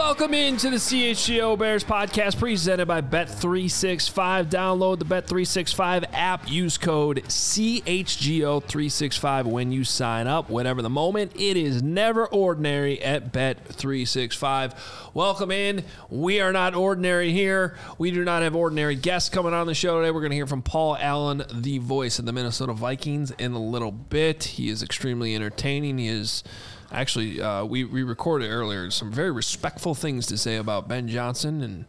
Welcome into the CHGO Bears podcast presented by Bet365. Download the Bet365 app. Use code CHGO365 when you sign up. Whatever the moment, it is never ordinary at Bet365. Welcome in. We are not ordinary here. We do not have ordinary guests coming on the show today. We're going to hear from Paul Allen, the voice of the Minnesota Vikings, in a little bit. He is extremely entertaining. He is... Actually, we recorded earlier some very respectful things to say about Ben Johnson and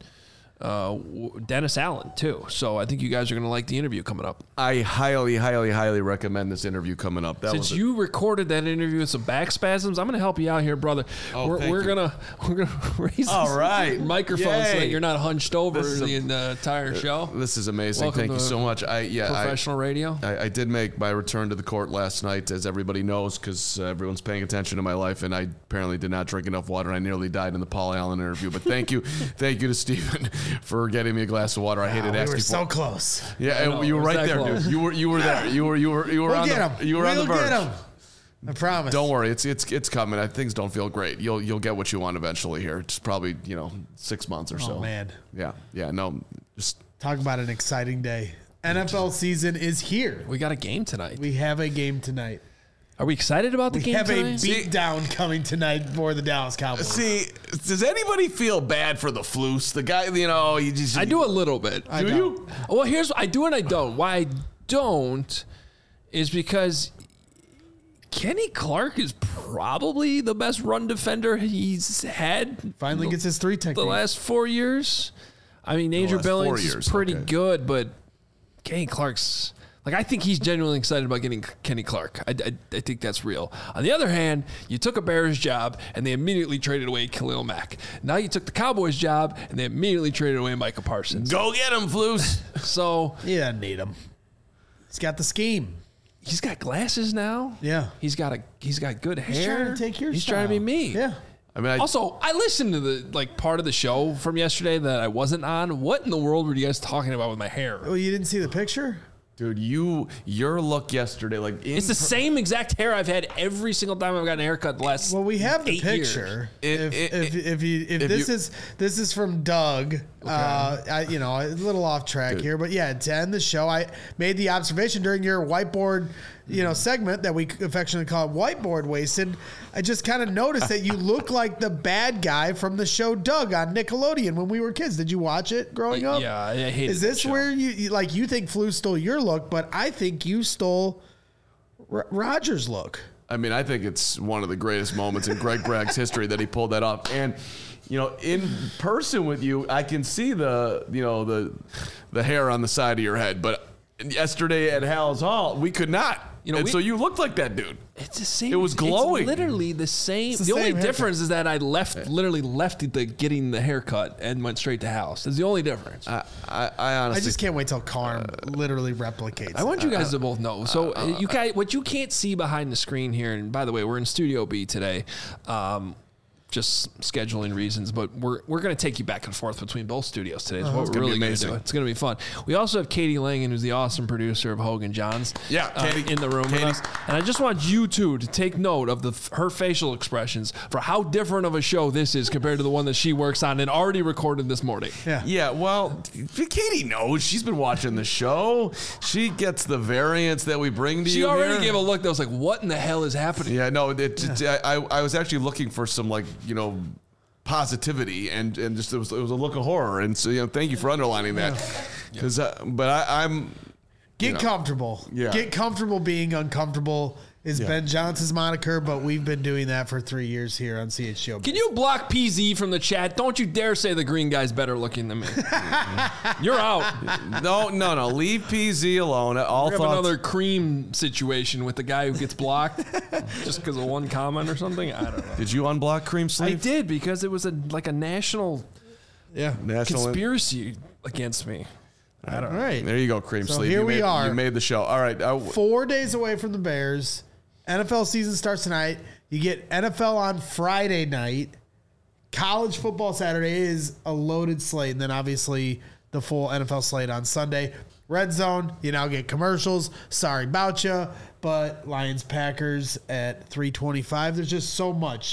Dennis Allen, too. So I think you guys are going to like the interview coming up. I highly, highly, highly recommend this interview coming up. Since you recorded that interview with some back spasms, I'm going to help you out here, brother. We're gonna raise this microphone so that you're not hunched over the entire show. This is amazing. Welcome Thank you so much. Professional radio. I did make my return to the court last night, as everybody knows, because everyone's paying attention to my life, and I apparently did not drink enough water. I nearly died in the Paul Allen interview. But thank you to Stephen for getting me a glass of water. I hated asking for. We were so close. Yeah, you were right there, dude. You were there. You were on the verge. Get him. I promise. Don't worry, it's coming. Things don't feel great. You'll get what you want eventually here. It's probably 6 months or so. Oh man. Yeah. No. Just talk about an exciting day. NFL season is here. We got a game tonight. We have a game tonight. Are we excited about the game tonight? We have a beatdown coming tonight for the Dallas Cowboys. See, does anybody feel bad for the Flus? The guy, I do a little bit. Do you? Well, I do and I don't. Why I don't is because Kenny Clark is probably the best run defender he's had. Finally gets his 3 technique. The last 4 years. I mean, Andrew Billings is pretty good, but Kenny Clark's... I think he's genuinely excited about getting Kenny Clark. I think that's real. On the other hand, you took a Bears job, and they immediately traded away Khalil Mack. Now you took the Cowboys job, and they immediately traded away Micah Parsons. Go get him, Flus. So he doesn't need him. He's got the scheme. He's got glasses now. Yeah. He's got good hair. He's trying to take your He's style. trying to be me. Yeah. Also, I listened to the part of the show from yesterday that I wasn't on. What in the world were you guys talking about with my hair? Oh, you didn't see the picture? Dude, your look yesterday, it's the same exact hair I've had every single time I've gotten a haircut the last. Well, we have the picture. This is from Doug. Okay. A little off track here, but yeah, to end the show, I made the observation during your whiteboard, segment that we affectionately call it Whiteboard Wasted. I just kind of noticed that you look like the bad guy from the show Doug on Nickelodeon when we were kids. Did you watch it growing up? Yeah, I hated it. Is this where you think Flu stole your look, but I think you stole Roger's look? I mean, I think it's one of the greatest moments in Greg Bragg's history that he pulled that off. And in person with you, I can see the hair on the side of your head, but yesterday at Hal's Hall, we could not. So you looked like that dude. It's the same. It was glowing. It's literally the same. The only difference is that I literally left getting the haircut and went straight to Hal's. That's the only difference. I honestly, I just can't wait till Carm literally replicates. I want you guys to both know. So you guys, what you can't see behind the screen here, and by the way, we're in Studio B today. Just scheduling reasons, but we're going to take you back and forth between both studios today. It's what we're really going to do. It's going to be fun. We also have Katie Langen, who's the awesome producer of Hogan Johns. Yeah, Katie, in the room with us. And I just want you two to take note of her facial expressions for how different of a show this is compared to the one that she works on and already recorded this morning. Yeah. Well, Katie knows. She's been watching the show. She gets the variants that we bring to you. She already gave a look that was like, "What in the hell is happening?" Yeah, no. I was actually looking for some positivity and just it was a look of horror, and so thank you for underlining that, because I'm get comfortable. Yeah, get comfortable being uncomfortable is Ben Johnson's moniker, but we've been doing that for 3 years here on CHGO. Can you block PZ from the chat? Don't you dare say the green guy's better looking than me. You're out. No. Leave PZ alone. We have another cream situation with the guy who gets blocked just because of one comment or something. I don't know. Did you unblock Cream Sleeve? I did, because it was a national conspiracy against me. I don't know. All right. There you go, Cream Sleeve. Here we are. You made the show. All right. 4 days away from the Bears. NFL season starts tonight. You get NFL on Friday night. College football Saturday is a loaded slate. And then obviously the full NFL slate on Sunday. Red Zone, you now get commercials. Sorry about you. But Lions-Packers at 3:25. There's just so much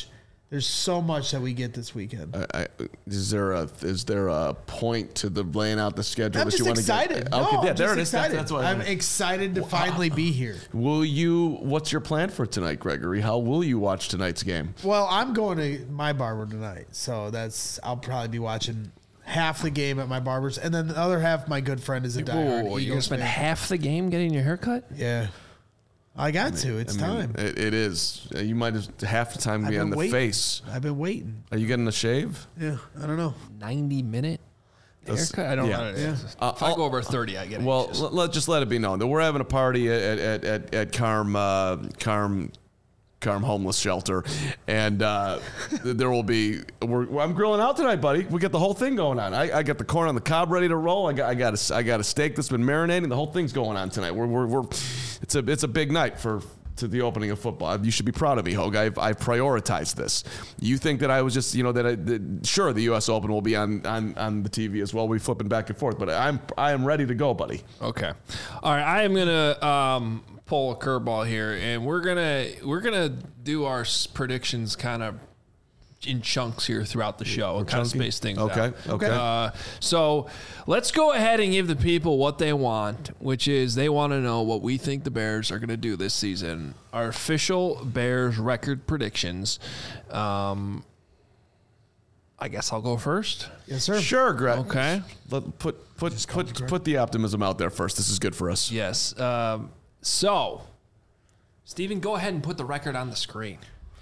There's so much that we get this weekend. Is there a point to the laying out the schedule I'm that just you want excited. to get? No, Okay, yeah, I'm there just it is. excited. That's what I'm excited to finally be here. What's your plan for tonight, Gregory? How will you watch tonight's game? Well, I'm going to my barber tonight, so I'll probably be watching half the game at my barber's, and then the other half, my good friend is a diehard You're going to Eagles spend fan. half the game getting your haircut? Yeah. I got to. It's time. It is. You might have half the time be on the face. I've been waiting. Are you getting a shave? Yeah, I don't know. 90-minute haircut? I don't know. Yeah. If I go over 30, I get Well, anxious. let's let it be known that we're having a party at Carm homeless shelter, and there will be. I'm grilling out tonight, buddy. We got the whole thing going on. I got the corn on the cob ready to roll. I got a steak that's been marinating. The whole thing's going on tonight. It's a big night to the opening of football. You should be proud of me, Hogue. I've prioritized this. You think that I was just sure the U.S. Open will be on the TV as well. We flipping back and forth, but I am ready to go, buddy. Okay. All right. I am gonna pull a curveball here, and we're gonna do our predictions kind of in chunks here throughout the show and kind of space things out. Okay. So let's go ahead and give the people what they want, which is they want to know what we think the Bears are going to do this season. Our official Bears record predictions. I guess I'll go first. Yes, sir. Sure, Greg. Okay. Put the optimism out there first. This is good for us. Yes. So, Steven, go ahead and put the record on the screen.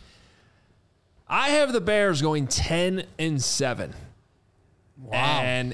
I have the Bears going 10-7. Wow. And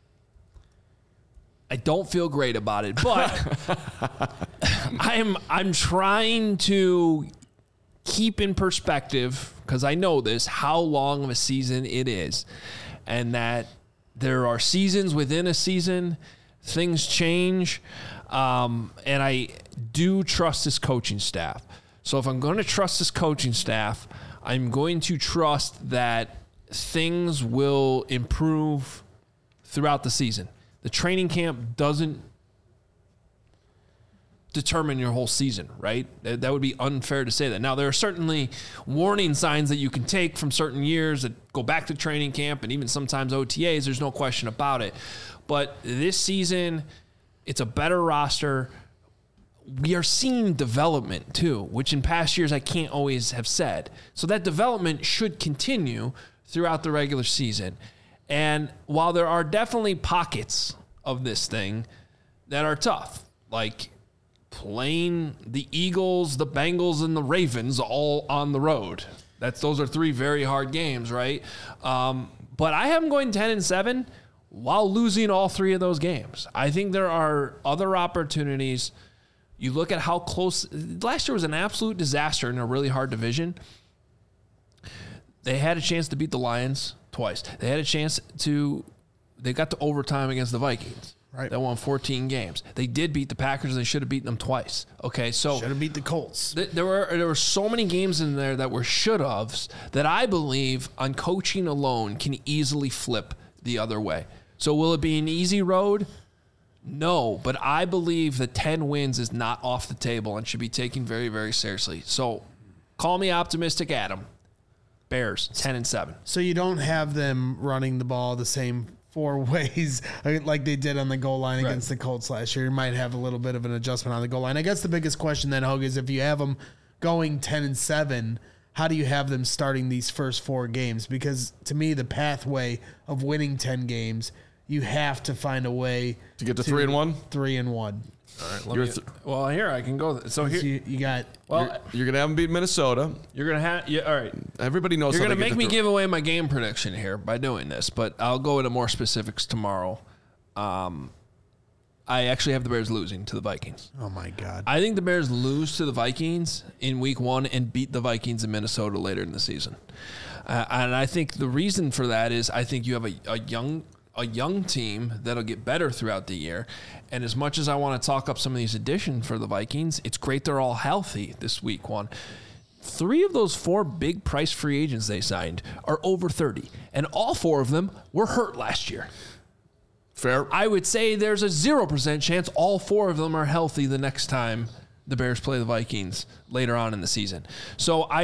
I don't feel great about it, but I'm trying to keep in perspective, because I know this, how long of a season it is, and that there are seasons within a season, things change, and I do trust this coaching staff. So if I'm going to trust this coaching staff, I'm going to trust that things will improve throughout the season. The training camp doesn't determine your whole season, right? That would be unfair to say that. Now, there are certainly warning signs that you can take from certain years that go back to training camp and even sometimes OTAs. There's no question about it. But this season, it's a better roster. We are seeing development too, which in past years I can't always have said. So that development should continue throughout the regular season. And while there are definitely pockets of this thing that are tough, like playing the Eagles, the Bengals, and the Ravens all on the road. Those are three very hard games, right? But I have them going 10-7 while losing all three of those games. I think there are other opportunities. You look at how close last year was an absolute disaster in a really hard division. They had a chance to beat the Lions twice. They had a chance they got to overtime against the Vikings. Right. They won 14 games. They did beat the Packers. They should have beaten them twice. Okay, so should have beat the Colts. There were so many games in there that were should-haves that I believe on coaching alone can easily flip the other way. So will it be an easy road? No, but I believe that 10 wins is not off the table and should be taken very, very seriously. So call me optimistic, Adam. Bears, 10-7. So you don't have them running the ball the same 4 ways like they did on the goal line against the Colts last year. You might have a little bit of an adjustment on the goal line. I guess the biggest question then, Hogue, is if you have them going 10-7, how do you have them starting these first 4 games? Because to me, the pathway of winning 10 games, you have to find a way to get to 3-1. 3-1. All right. Well, here I can go. So here you got. Well, you're gonna have them beat Minnesota. You're gonna have. Yeah, all right. Everybody knows. You're gonna make me give away my game prediction here by doing this, but I'll go into more specifics tomorrow. I actually have the Bears losing to the Vikings. Oh my God! I think the Bears lose to the Vikings in Week 1 and beat the Vikings in Minnesota later in the season. And I think the reason for that is I think you have a young team that'll get better throughout the year. And as much as I want to talk up some of these additions for the Vikings, it's great they're all healthy this Week 1. 3 of those 4 big price free agents they signed are over 30, and all 4 of them were hurt last year. Fair. I would say there's a 0% chance all 4 of them are healthy the next time the Bears play the Vikings later on in the season. So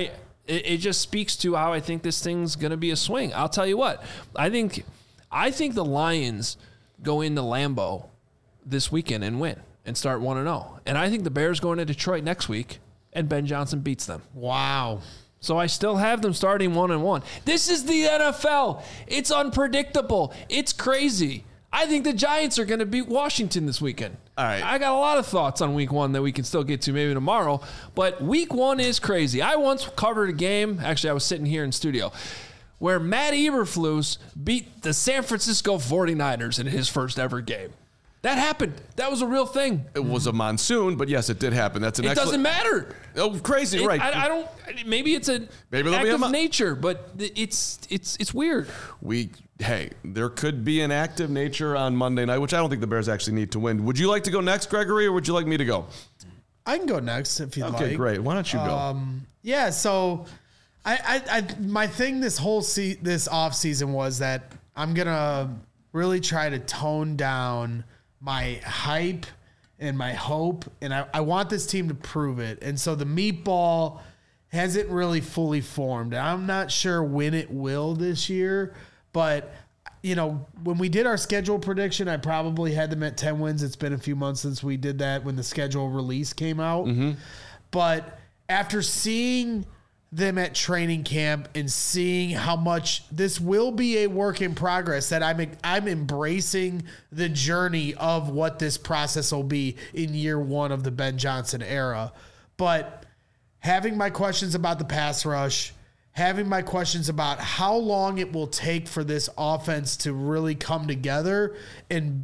It just speaks to how I think this thing's going to be a swing. I'll tell you what. I think the Lions go into Lambeau this weekend and win and start 1-0. And I think the Bears go into Detroit next week and Ben Johnson beats them. Wow. So I still have them starting 1-1. This is the NFL. It's unpredictable. It's crazy. I think the Giants are going to beat Washington this weekend. All right. I got a lot of thoughts on week 1 that we can still get to maybe tomorrow, but week 1 is crazy. I once covered a game, actually I was sitting here in studio, where Matt Eberflus beat the San Francisco 49ers in his first ever game. That happened. That was a real thing. It was a monsoon, but yes, it did happen. That's an It doesn't matter. Oh, crazy, right. I don't. Maybe it's an act of nature, but it's weird. Hey, there could be an act of nature on Monday night, which I don't think the Bears actually need to win. Would you like to go next, Gregory, or would you like me to go? I can go next if you'd like. Okay, great. Why don't you go? Yeah, so I my thing this whole this off season was that I'm gonna really try to tone down my hype and my hope, and I want this team to prove it. And so the meatball hasn't really fully formed. I'm not sure when it will this year, but when we did our schedule prediction, I probably had them at 10 wins. It's been a few months since we did that when the schedule release came out. Mm-hmm. But after seeing them at training camp and seeing how much this will be a work in progress, that I'm embracing the journey of what this process will be in year 1 of the Ben Johnson era. But having my questions about the pass rush, having my questions about how long it will take for this offense to really come together and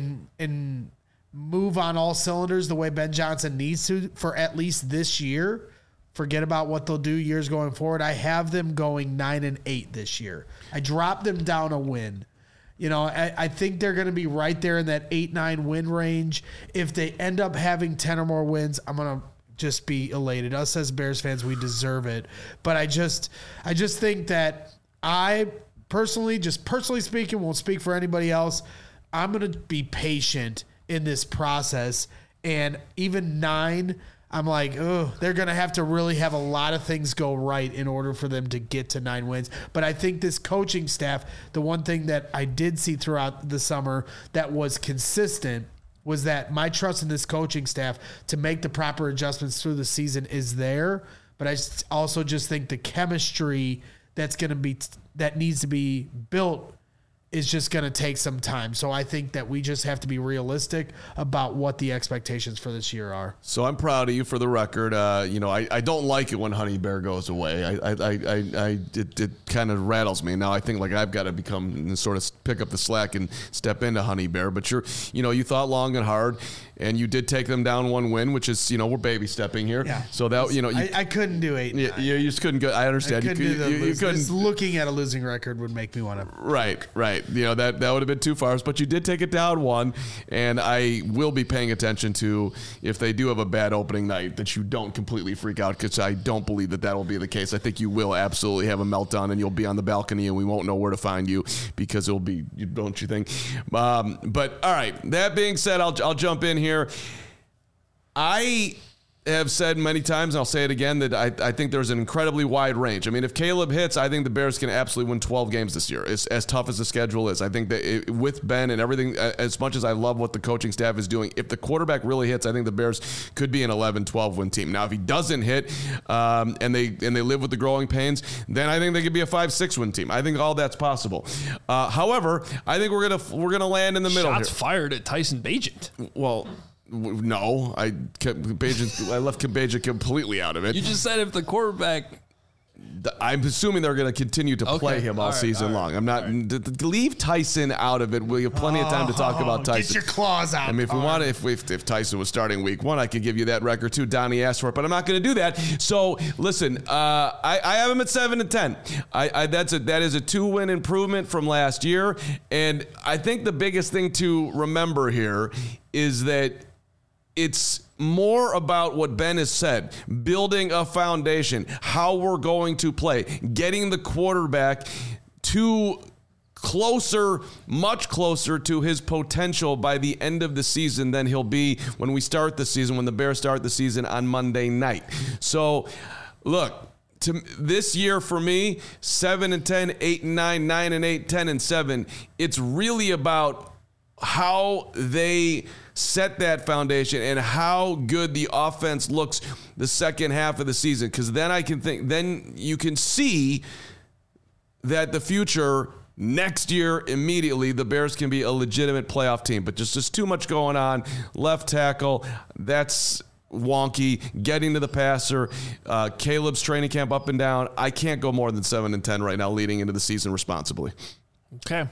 move on all cylinders the way Ben Johnson needs to for at least this year. Forget about what they'll do years going forward. I have them going 9-8 this year. I dropped them down a win. I think they're going to be right there in that 8-9 win range. If they end up having 10 or more wins, I'm going to just be elated. Us as Bears fans, we deserve it. But I just think that I personally speaking, won't speak for anybody else. I'm going to be patient in this process. And even 9, I'm like, they're going to have to really have a lot of things go right in order for them to get to 9 wins. But I think this coaching staff, the one thing that I did see throughout the summer that was consistent was that my trust in this coaching staff to make the proper adjustments through the season is there. But I also just think the chemistry that needs to be built is just going to take some time. So I think that we just have to be realistic about what the expectations for this year are. So I'm proud of you for the record. I don't like it when Honey Bear goes away. It kind of rattles me. Now I think like I've got to become and sort of pick up the slack and step into Honey Bear. But you thought long and hard, and you did take them down 1 win, which is, we're baby stepping here. Yeah. So that, I couldn't do 8. You just couldn't go. I understand. You couldn't. Just looking at a losing record would make me want to. Right. That would have been too far. But you did take it down 1, and I will be paying attention to if they do have a bad opening night that you don't completely freak out, because I don't believe that will be the case. I think you will absolutely have a meltdown, and you'll be on the balcony, and we won't know where to find you because it'll be, don't you think? But all right. That being said, I'll jump in here. I have said many times, and I'll say it again, that I think there's an incredibly wide range. I mean, if Caleb hits, I think the Bears can absolutely win 12 games this year. It's as tough as the schedule is. I think that with Ben and everything, as much as I love what the coaching staff is doing, if the quarterback really hits, I think the Bears could be an 11-12 win team. Now, if he doesn't hit and they live with the growing pains, then I think they could be a 5-6 win team. I think all that's possible. However, I think we're gonna land in the middle. Shots fired at Tyson Bagent. Well. No, I left Kabeja completely out of it. You just said if the quarterback... I'm assuming they're going to continue to play him all season long. I'm not leave Tyson out of it. We have plenty of time to talk about Tyson. Get your claws out. I mean, if we want to, if Tyson was starting week 1, I could give you that record too. Donnie asked for it, but I'm not going to do that. So listen, I have him at 7-10. That is a 2-win improvement from last year, and I think the biggest thing to remember here is that it's more about what Ben has said, building a foundation, how we're going to play, getting the quarterback to much closer to his potential by the end of the season than he'll be when we start the season, when the Bears start the season on Monday night. So, look, this year for me, 7-10, 8-9, 9-8, 10-7. It's really about how they set that foundation and how good the offense looks the second half of the season. Because then you can see that the future next year, immediately, the Bears can be a legitimate playoff team. But just too much going on. Left tackle, that's wonky. Getting to the passer, Caleb's training camp up and down. I can't go more than 7-10 right now leading into the season responsibly. Okay.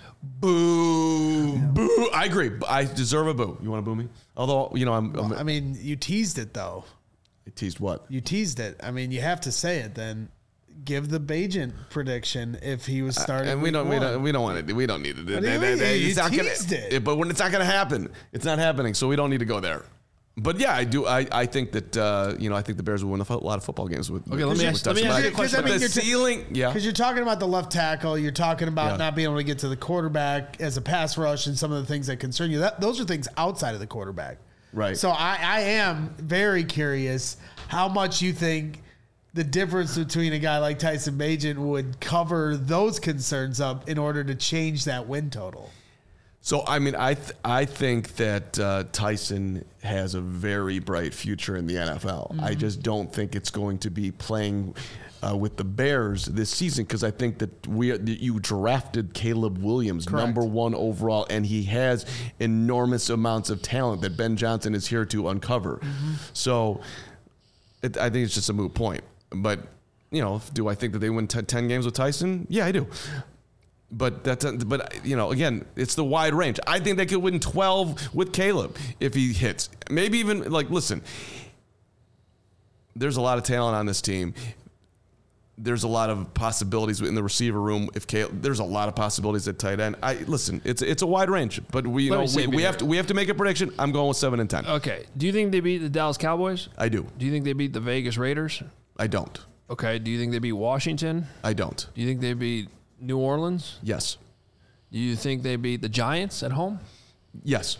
Boo. Boo. I agree. I deserve a boo. You want to boo me? Although, I mean, you teased it, though. I teased what? You teased it. I mean, you have to say it then. Give the Bagent prediction if he was starting. And we don't want to. We don't need to do that. You teased it. But when it's not going to happen, it's not happening. So we don't need to go there. But yeah, I do. I think that I think the Bears will win a lot of football games with. Okay, let me ask you a question. The ceiling, yeah, because you're talking about the left tackle, you're talking about not being able to get to the quarterback as a pass rush, and some of the things that concern you. Those are things outside of the quarterback, right? So I am very curious how much you think the difference between a guy like Tyson Bagent would cover those concerns up in order to change that win total. So, I mean, I think that Tyson has a very bright future in the NFL. Mm-hmm. I just don't think it's going to be playing with the Bears this season because I think that you drafted Caleb Williams, Correct. number 1 overall, and he has enormous amounts of talent that Ben Johnson is here to uncover. Mm-hmm. So, I think it's just a moot point. But, do I think that they win 10 games with Tyson? Yeah, I do. But again, it's the wide range. I think they could win 12 with Caleb if he hits. Maybe even listen. There's a lot of talent on this team. There's a lot of possibilities in the receiver room. There's a lot of possibilities at tight end. It's a wide range, but we have to make a prediction. I'm going with 7-10. Okay. Do you think they beat the Dallas Cowboys? I do. Do you think they beat the Vegas Raiders? I don't. Okay. Do you think they beat Washington? I don't. Do you think they beat New Orleans? Yes. Do you think they beat the Giants at home? Yes.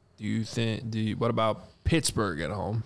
What about Pittsburgh at home?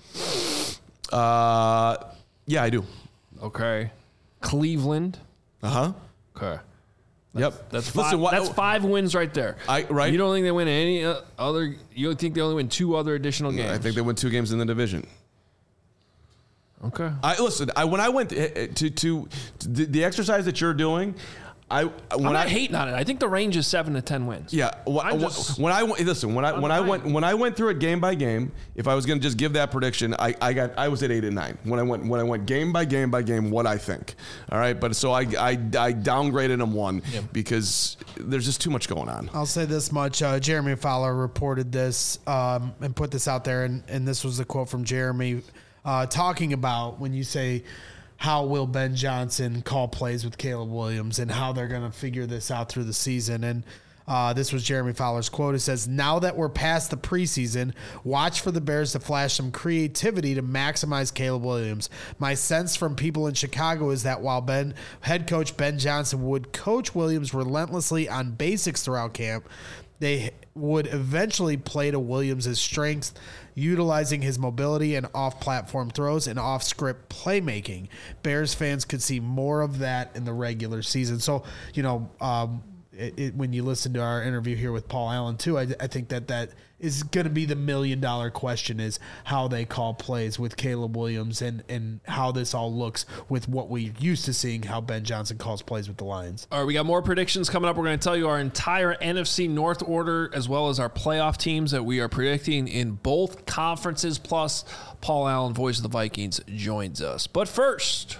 Yeah, I do. Okay. Cleveland? Uh-huh. Okay. Yep. That's 5. That's 5 wins right there. Right. You don't think they win any other? You think they only win 2 other additional games? I think they win 2 games in the division. Okay. When I went to the exercise that you're doing, I'm not hating on it. I think the range is 7 to 10 wins. Yeah. When I went through it game by game, if I was going to just give that prediction, I was at 8 and 9 when I went game by game what I think. All right, but so I downgraded them 1 because there's just too much going on. I'll say this much: Jeremy Fowler reported this and put this out there, and this was a quote from Jeremy talking about when you say, how will Ben Johnson call plays with Caleb Williams and how they're going to figure this out through the season. And this was Jeremy Fowler's quote. It says, now that we're past the preseason, watch for the Bears to flash some creativity to maximize Caleb Williams. My sense from people in Chicago is that while head coach Ben Johnson would coach Williams relentlessly on basics throughout camp, they would eventually play to Williams' strengths, utilizing his mobility and off-platform throws and off-script playmaking. Bears fans could see more of that in the regular season. So, when you listen to our interview here with Paul Allen too, I think that is going to be the $1 million question, is how they call plays with Caleb Williams and how this all looks with what we're used to seeing how Ben Johnson calls plays with the Lions. All right, we got more predictions coming up. We're going to tell you our entire NFC North order as well as our playoff teams that we are predicting in both conferences. Plus, Paul Allen, voice of the Vikings, joins us. But first,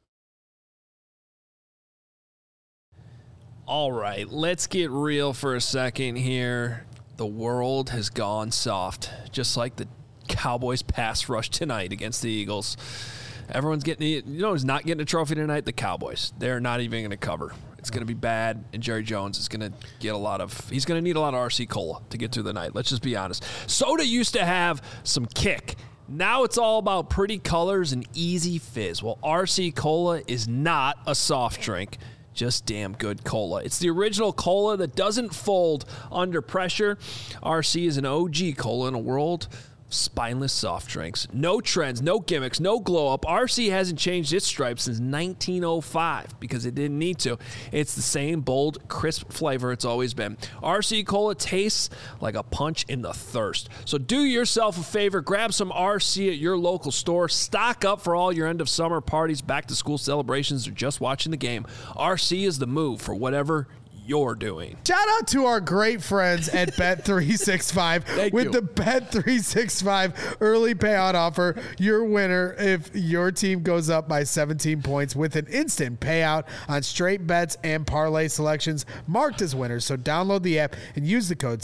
all right, let's get real for a second here. The world has gone soft, just like the Cowboys pass rush tonight against the Eagles. Everyone's getting, who's not getting a trophy tonight? The Cowboys. They're not even going to cover. It's going to be bad, and Jerry Jones is going to get he's going to need a lot of RC Cola to get through the night. Let's just be honest. Soda used to have some kick. Now it's all about pretty colors and easy fizz. Well, RC Cola is not a soft drink. Just damn good cola. It's the original cola that doesn't fold under pressure. RC is an OG cola in a world spineless soft drinks. No trends, no gimmicks, no glow up. RC hasn't changed its stripes since 1905 because it didn't need to. It's the same bold, crisp flavor it's always been. RC Cola tastes like a punch in the thirst. So do yourself a favor, grab some RC at your local store. Stock up for all your end of summer parties, back to school celebrations, or just watching the game. RC is the move for whatever you're doing. Shout out to our great friends at Bet365 with the Bet365 early payout offer. Your winner if your team goes up by 17 points with an instant payout on straight bets and parlay selections marked as winners. So download the app and use the code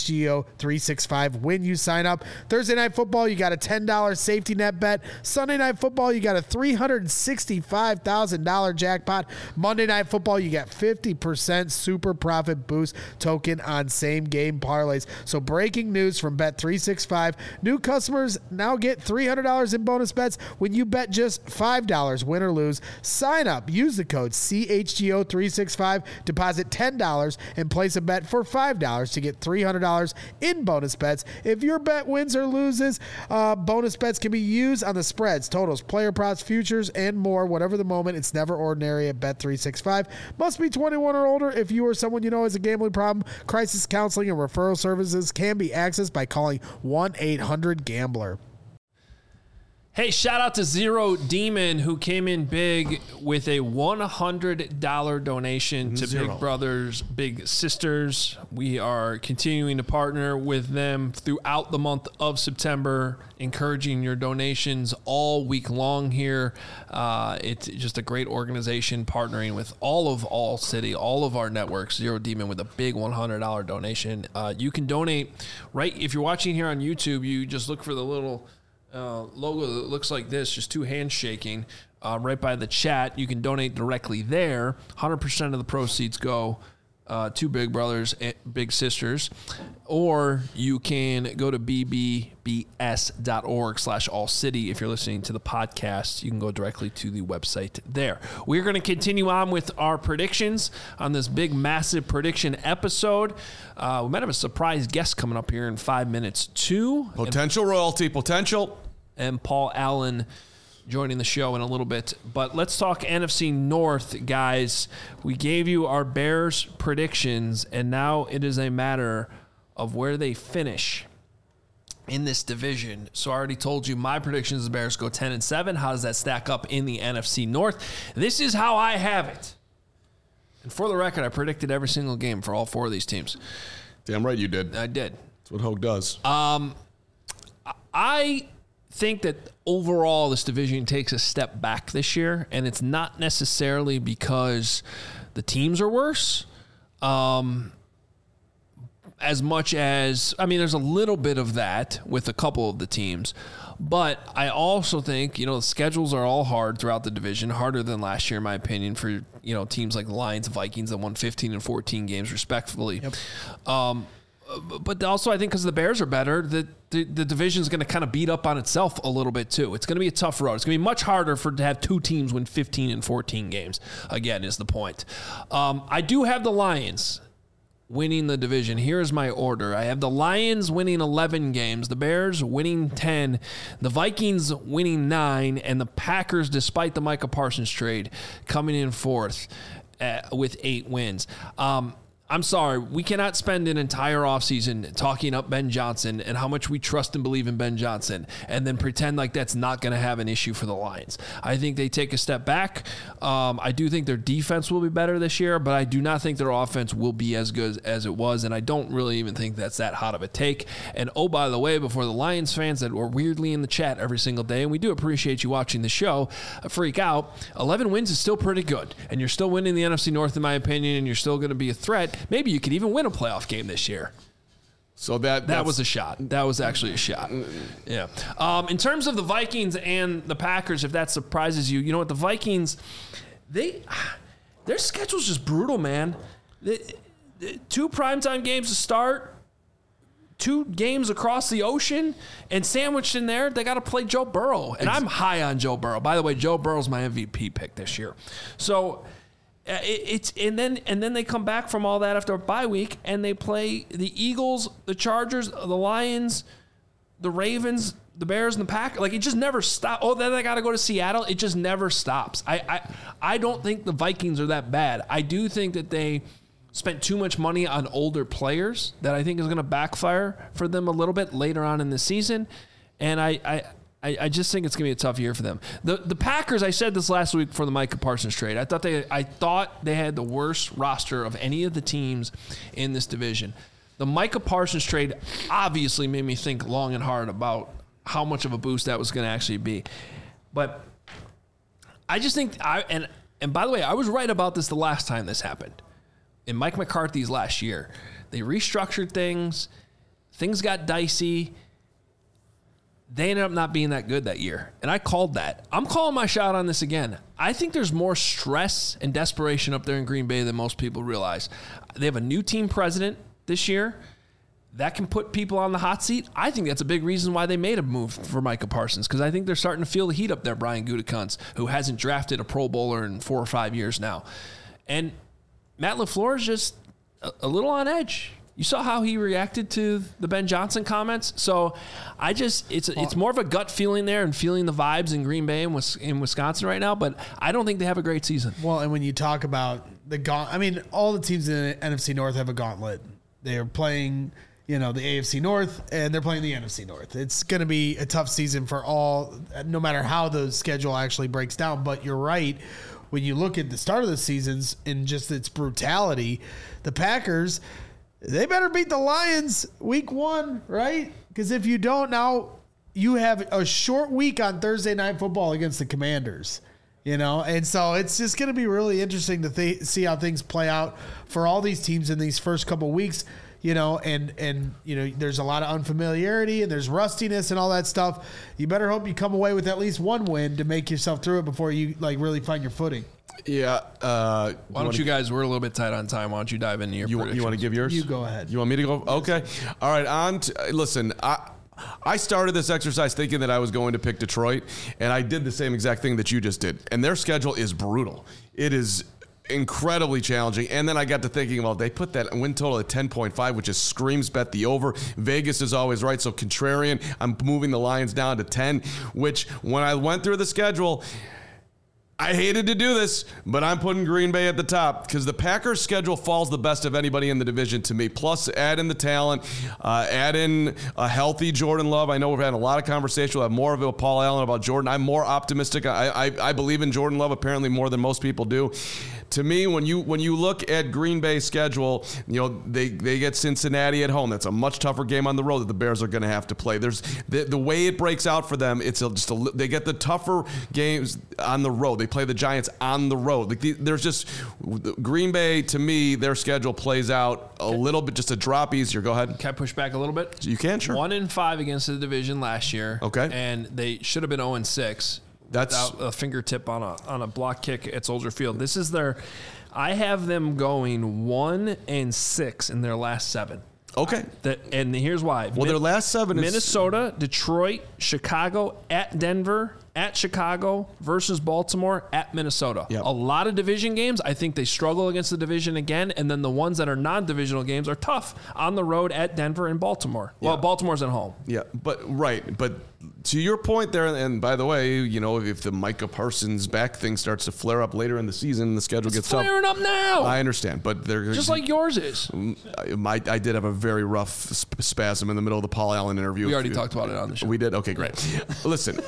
CHGO365 when you sign up. Thursday Night Football, you got a $10 safety net bet. Sunday Night Football, you got a $365,000 jackpot. Monday Night Football, you got 50% super profit boost token on same game parlays. So breaking news from Bet365, new customers now get $300 in bonus bets when you bet just $5, win or lose. Sign up, use the code CHGO365, deposit $10 and place a bet for $5 to get $300 in bonus bets. If your bet wins or loses, bonus bets can be used on the spreads, totals, player props, futures, and more. Whatever the moment, it's never ordinary at Bet365. Must be 21 or older. If you or someone you know has a gambling problem, crisis counseling and referral services can be accessed by calling 1-800-GAMBLER. Hey, shout out to Zero Demon, who came in big with a $100 donation to Big Brothers Big Sisters. We are continuing to partner with them throughout the month of September, encouraging your donations all week long here. It's just a great organization partnering with all City, all of our networks. Zero Demon with a big $100 donation. You can donate right if you're watching here on YouTube. You just look for the little logo that looks like this, just two hands shaking, right by the chat. You can donate directly there. 100% of the proceeds go to Big Brothers and Big Sisters, or you can go to bbbs.org/allcity. If you're listening to the podcast, you can go directly to the website there. We're going to continue on with our predictions on this big, massive prediction episode. We might have a surprise guest coming up here in 5 minutes, too. Potential royalty, potential. And Paul Allen joining the show in a little bit. But let's talk NFC North, guys. We gave you our Bears predictions, and now it is a matter of where they finish in this division. So I already told you my predictions: the Bears go 10-7. How does that stack up in the NFC North? This is how I have it. And for the record, I predicted every single game for all four of these teams. Damn right you did. I did. That's what Hogue does. I think that overall this division takes a step back this year, and it's not necessarily because the teams are worse, as much as, I mean, there's a little bit of that with a couple of the teams, but I also think, the schedules are all hard throughout the division, harder than last year, in my opinion, for, teams like the Lions, Vikings that won 15 and 14 games respectively. Yep. But also I think because the Bears are better, the division is going to kind of beat up on itself a little bit too. It's going to be a tough road. It's going to be much harder to have two teams win 15 and 14 games, again, is the point. I do have the Lions winning the division. Here's my order. I have the Lions winning 11 games, the Bears winning 10, the Vikings winning 9, and the Packers, despite the Micah Parsons trade, coming in fourth with 8 wins. I'm sorry, we cannot spend an entire offseason talking up Ben Johnson and how much we trust and believe in Ben Johnson and then pretend like that's not going to have an issue for the Lions. I think they take a step back. I do think their defense will be better this year, but I do not think their offense will be as good as it was, and I don't really even think that's that hot of a take. And oh, by the way, before the Lions fans that were weirdly in the chat every single day, and we do appreciate you watching the show, freak out, 11 wins is still pretty good, and you're still winning the NFC North, in my opinion, and you're still going to be a threat. Maybe you could even win a playoff game this year. So that was a shot. That was actually a shot. Yeah. In terms of the Vikings and the Packers, if that surprises you, you know what? The Vikings, their schedule's just brutal, man. 2 primetime games to start, 2 games across the ocean, and sandwiched in there, they got to play Joe Burrow. And I'm high on Joe Burrow. By the way, Joe Burrow's my MVP pick this year. So and then they come back from all that after a bye week, and they play the Eagles, the Chargers, the Lions, the Ravens, the Bears, and the Packers. Like, it just never stops. Oh, then I got to go to Seattle. It just never stops. I don't think the Vikings are that bad. I do think that they spent too much money on older players that I think is going to backfire for them a little bit later on in the season. And I just think it's going to be a tough year for them. The Packers, I said this last week for the Micah Parsons trade. I thought they had the worst roster of any of the teams in this division. The Micah Parsons trade obviously made me think long and hard about how much of a boost that was going to actually be. But I just think and by the way, I was right about this the last time this happened. In Mike McCarthy's last year, they restructured things. Things got dicey. They ended up not being that good that year. And I called that. I'm calling my shot on this again. I think there's more stress and desperation up there in Green Bay than most people realize. They have a new team president this year. That can put people on the hot seat. I think that's a big reason why they made a move for Micah Parsons, because I think they're starting to feel the heat up there, Brian Gutekunst, who hasn't drafted a Pro Bowler in 4 or 5 years now. And Matt LaFleur is just a little on edge. You saw how he reacted to the Ben Johnson comments. So it's more of a gut feeling there and feeling the vibes in Green Bay and in Wisconsin right now. But I don't think they have a great season. Well, and when you talk about all the teams in the NFC North have a gauntlet. They are playing, the AFC North, and they're playing the NFC North. It's going to be a tough season for all, no matter how the schedule actually breaks down. But you're right. When you look at the start of the seasons and just its brutality, the Packers, they better beat the Lions week 1, right? Because if you don't, now you have a short week on Thursday Night Football against the Commanders, And so it's just going to be really interesting to see how things play out for all these teams in these first couple weeks, and there's a lot of unfamiliarity and there's rustiness and all that stuff. You better hope you come away with at least one win to make yourself through it before you really find your footing. Yeah. Why don't you guys, we're a little bit tight on time. Why don't you dive into your predictions? You want to give yours? You go ahead. You want me to go? Okay. All right. Listen, I started this exercise thinking that I was going to pick Detroit, and I did the same exact thing that you just did. And their schedule is brutal. It is incredibly challenging. And then I got to thinking, well, they put that win total at 10.5, which is screams bet the over. Vegas is always right. So contrarian, I'm moving the Lions down to 10, which when I went through the schedule, I hated to do this, but I'm putting Green Bay at the top because the Packers' schedule falls the best of anybody in the division to me. Plus, add in the talent, add in a healthy Jordan Love. I know we've had a lot of conversation. We'll have more of it with Paul Allen about Jordan. I'm more optimistic. I believe in Jordan Love apparently more than most people do. To me, when you look at Green Bay's schedule, they get Cincinnati at home. That's a much tougher game on the road that the Bears are going to have to play. There's the way it breaks out for them. They get the tougher games on the road. They play the Giants on the road. There's just Green Bay. To me, their schedule plays out a little bit, just a drop easier. Go ahead. Can I push back a little bit? You can, sure. 1-5 against the division last year. Okay, and they should have been 0-6. That's without a fingertip on a block kick at Soldier Field. This is I have them going 1-6 in their last 7. Okay. And here's why. Well, their last 7 is Minnesota, Detroit, Chicago, at Denver, at Chicago, versus Baltimore, at Minnesota. Yep. A lot of division games. I think they struggle against the division again, and then the ones that are non-divisional games are tough on the road at Denver and Baltimore. Yeah. Well, Baltimore's at home. Yeah, but to your point there, and by the way, if the Micah Parsons back thing starts to flare up later in the season, the schedule gets tough. It's flaring up now. I understand, but they're just like yours is. I did have a very rough spasm in the middle of the Paul Allen interview. We already talked about it on the show. We did? Okay, great. Listen,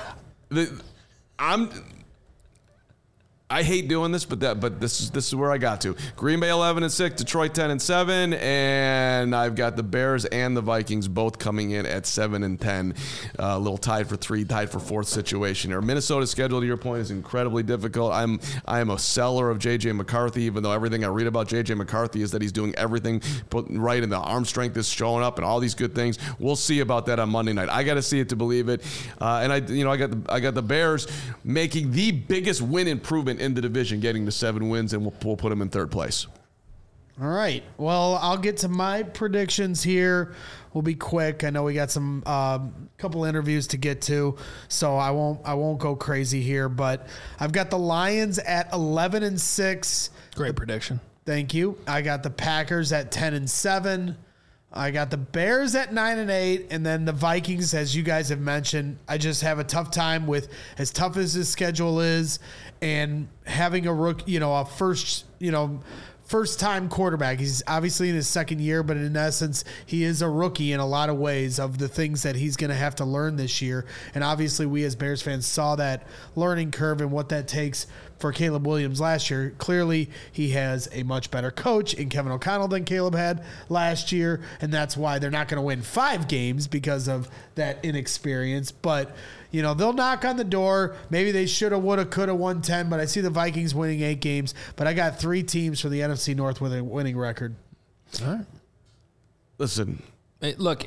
I hate doing this, but this is where I got to. Green Bay 11-6, Detroit 10-7, and I've got the Bears and the Vikings both coming in at 7-10. A little tied for 3, tied for 4th situation here. Minnesota's schedule, to your point, is incredibly difficult. I am a seller of J.J. McCarthy, even though everything I read about J.J. McCarthy is that he's doing everything put right, and the arm strength is showing up, and all these good things. We'll see about that on Monday night. I got to see it to believe it. And I got the Bears making the biggest win improvement in the division, getting to 7 wins, and we'll put them in 3rd place. All right. Well, I'll get to my predictions here. We'll be quick. I know we got some couple interviews to get to, so I won't go crazy here. But I've got the Lions at 11-6. Great prediction. Thank you. I got the Packers at 10-7. I got the Bears at 9-8, and then the Vikings, as you guys have mentioned. I just have a tough time with, as tough as his schedule is, and having a rookie, a first-time quarterback. He's obviously in his second year, but in essence, he is a rookie in a lot of ways of the things that he's going to have to learn this year. And obviously, we as Bears fans saw that learning curve and what that takes for Caleb Williams last year. Clearly, he has a much better coach in Kevin O'Connell than Caleb had last year, and that's why they're not going to win 5 games because of that inexperience. But they'll knock on the door. Maybe they should have, would have, could have won 10, but I see the Vikings winning 8 games. But I got 3 teams for the NFC North with a winning record. All right. Listen. Look,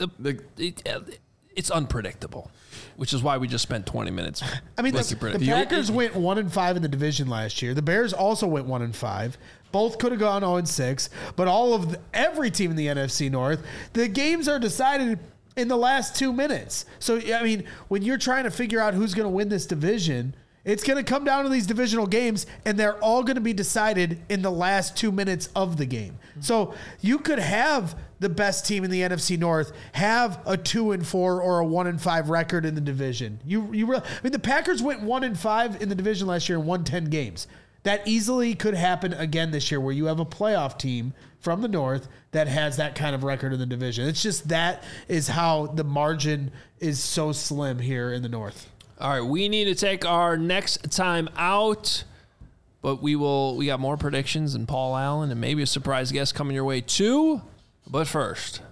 it's unpredictable, which is why we just spent 20 minutes. I mean, the Packers went 1-5 in the division last year. The Bears also went 1-5. Both could have gone 0-6, but every team in the NFC North, the games are decided in the last 2 minutes. So, I mean, when you're trying to figure out who's going to win this division, it's going to come down to these divisional games, and they're all going to be decided in the last 2 minutes of the game. So you could have the best team in the NFC North have a 2-4 or a 1-5 record in the division. The Packers went 1-5 in the division last year and won 10 games. That easily could happen again this year, where you have a playoff team from the North that has that kind of record in the division. It's just that is how the margin is so slim here in the North. All right, we need to take our next time out, but we got more predictions and Paul Allen and maybe a surprise guest coming your way too. But first,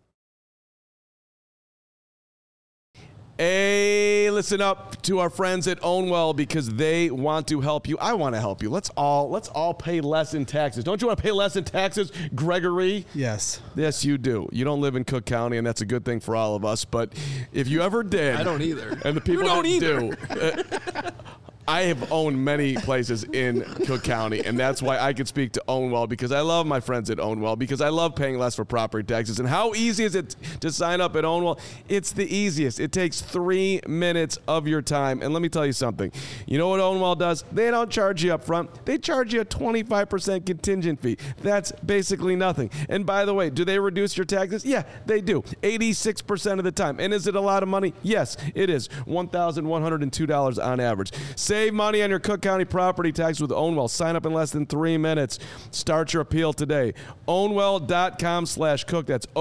hey, listen up to our friends at Ownwell, because they want to help you. I want to help you. Let's all pay less in taxes. Don't you want to pay less in taxes, Gregory? Yes. Yes, you do. You don't live in Cook County, and that's a good thing for all of us. But if you ever did, I don't either. And the people that do. I have owned many places in Cook County, and that's why I could speak to Ownwell, because I love my friends at Ownwell, because I love paying less for property taxes. And how easy is it to sign up at Ownwell? It's the easiest. It takes 3 minutes of your time. And let me tell you something. You know what Ownwell does? They don't charge you up front. They charge you a 25% contingent fee. That's basically nothing. And by the way, do they reduce your taxes? Yeah, they do. 86% of the time. And is it a lot of money? Yes, it is. $1,102 on average. Save money on your Cook County property tax with Ownwell. Sign up in less than 3 minutes. Start your appeal today. Ownwell.com/cook. That's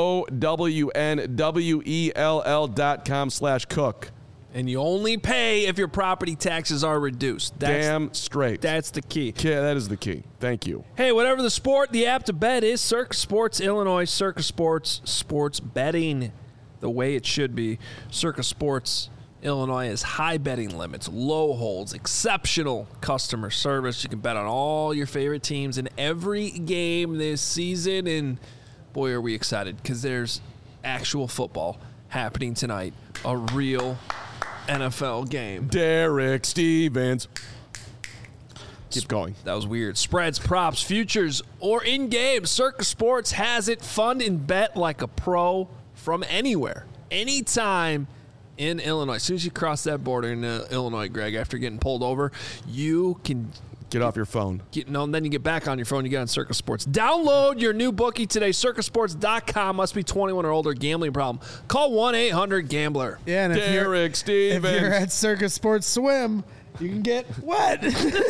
OWNWELL.com/cook. And you only pay if your property taxes are reduced. Damn straight. That's the key. Yeah, that is the key. Thank you. Hey, whatever the sport, the app to bet is Circa Sports Illinois. Circa Sports, sports betting the way it should be. Circa Sports Illinois has high betting limits, low holds, exceptional customer service. You can bet on all your favorite teams in every game this season. And boy, are we excited, because there's actual football happening tonight. A real NFL game. Derek Stevens. Keep going. That was weird. Spreads, props, futures, or in-game. Circa Sports has it. Fund and bet like a pro from anywhere, anytime in Illinois. As soon as you cross that border in Illinois, Greg, after getting pulled over, you can get off your phone. Then you get back on your phone. You get on Circa Sports. Download your new bookie today. CircaSports.com. Must be 21 or older. Gambling problem? Call 1-800-GAMBLER. Yeah, and if you're at Circa Sports Swim, you can get wet.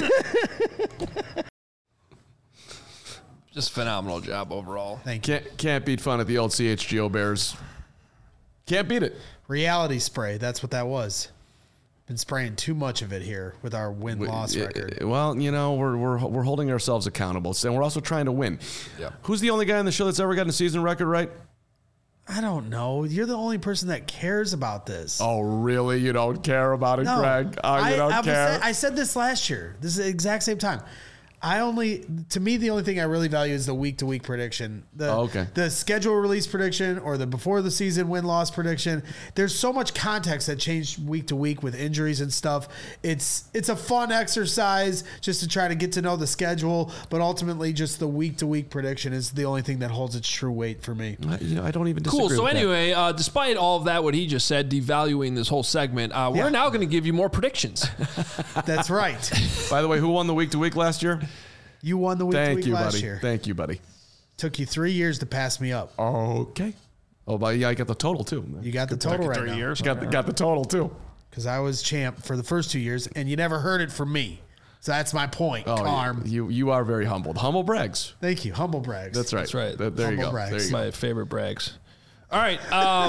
Just phenomenal job overall. Thank you. Can't beat fun at the old CHGO Bears. Can't beat it. Reality spray. That's what that was. Been spraying too much of it here with our win-loss record. Well, we're holding ourselves accountable, and we're also trying to win. Yeah. Who's the only guy in the show that's ever gotten a season record right? I don't know. You're the only person that cares about this. Oh, really? You don't care about it, No. Greg? Oh, you don't care? I said this last year. This is the exact same time. To me, the only thing I really value is the week-to-week prediction. The schedule release prediction or the before the season win-loss prediction. There's so much context that changed week to week with injuries and stuff. It's a fun exercise just to try to get to know the schedule, but ultimately just the week-to-week prediction is the only thing that holds its true weight for me. I don't even disagree Cool. So with anyway, despite all of that, what he just said, devaluing this whole segment, we're now going to give you more predictions. That's right. By the way, who won the week-to-week last year? You won the week-to-week last buddy. year. Thank you, buddy. Took you 3 years to pass me up. Okay. Oh, but yeah, I got the total too. You got the total right now. 3 years. Got the total too. Because I was champ for the first 2 years, and you never heard it from me. So that's my point, Carm. You are very humbled. Humble brags. Thank you. Humble brags. That's right. That's right. There you Humble go. brags. There you My go. favorite brags. All right.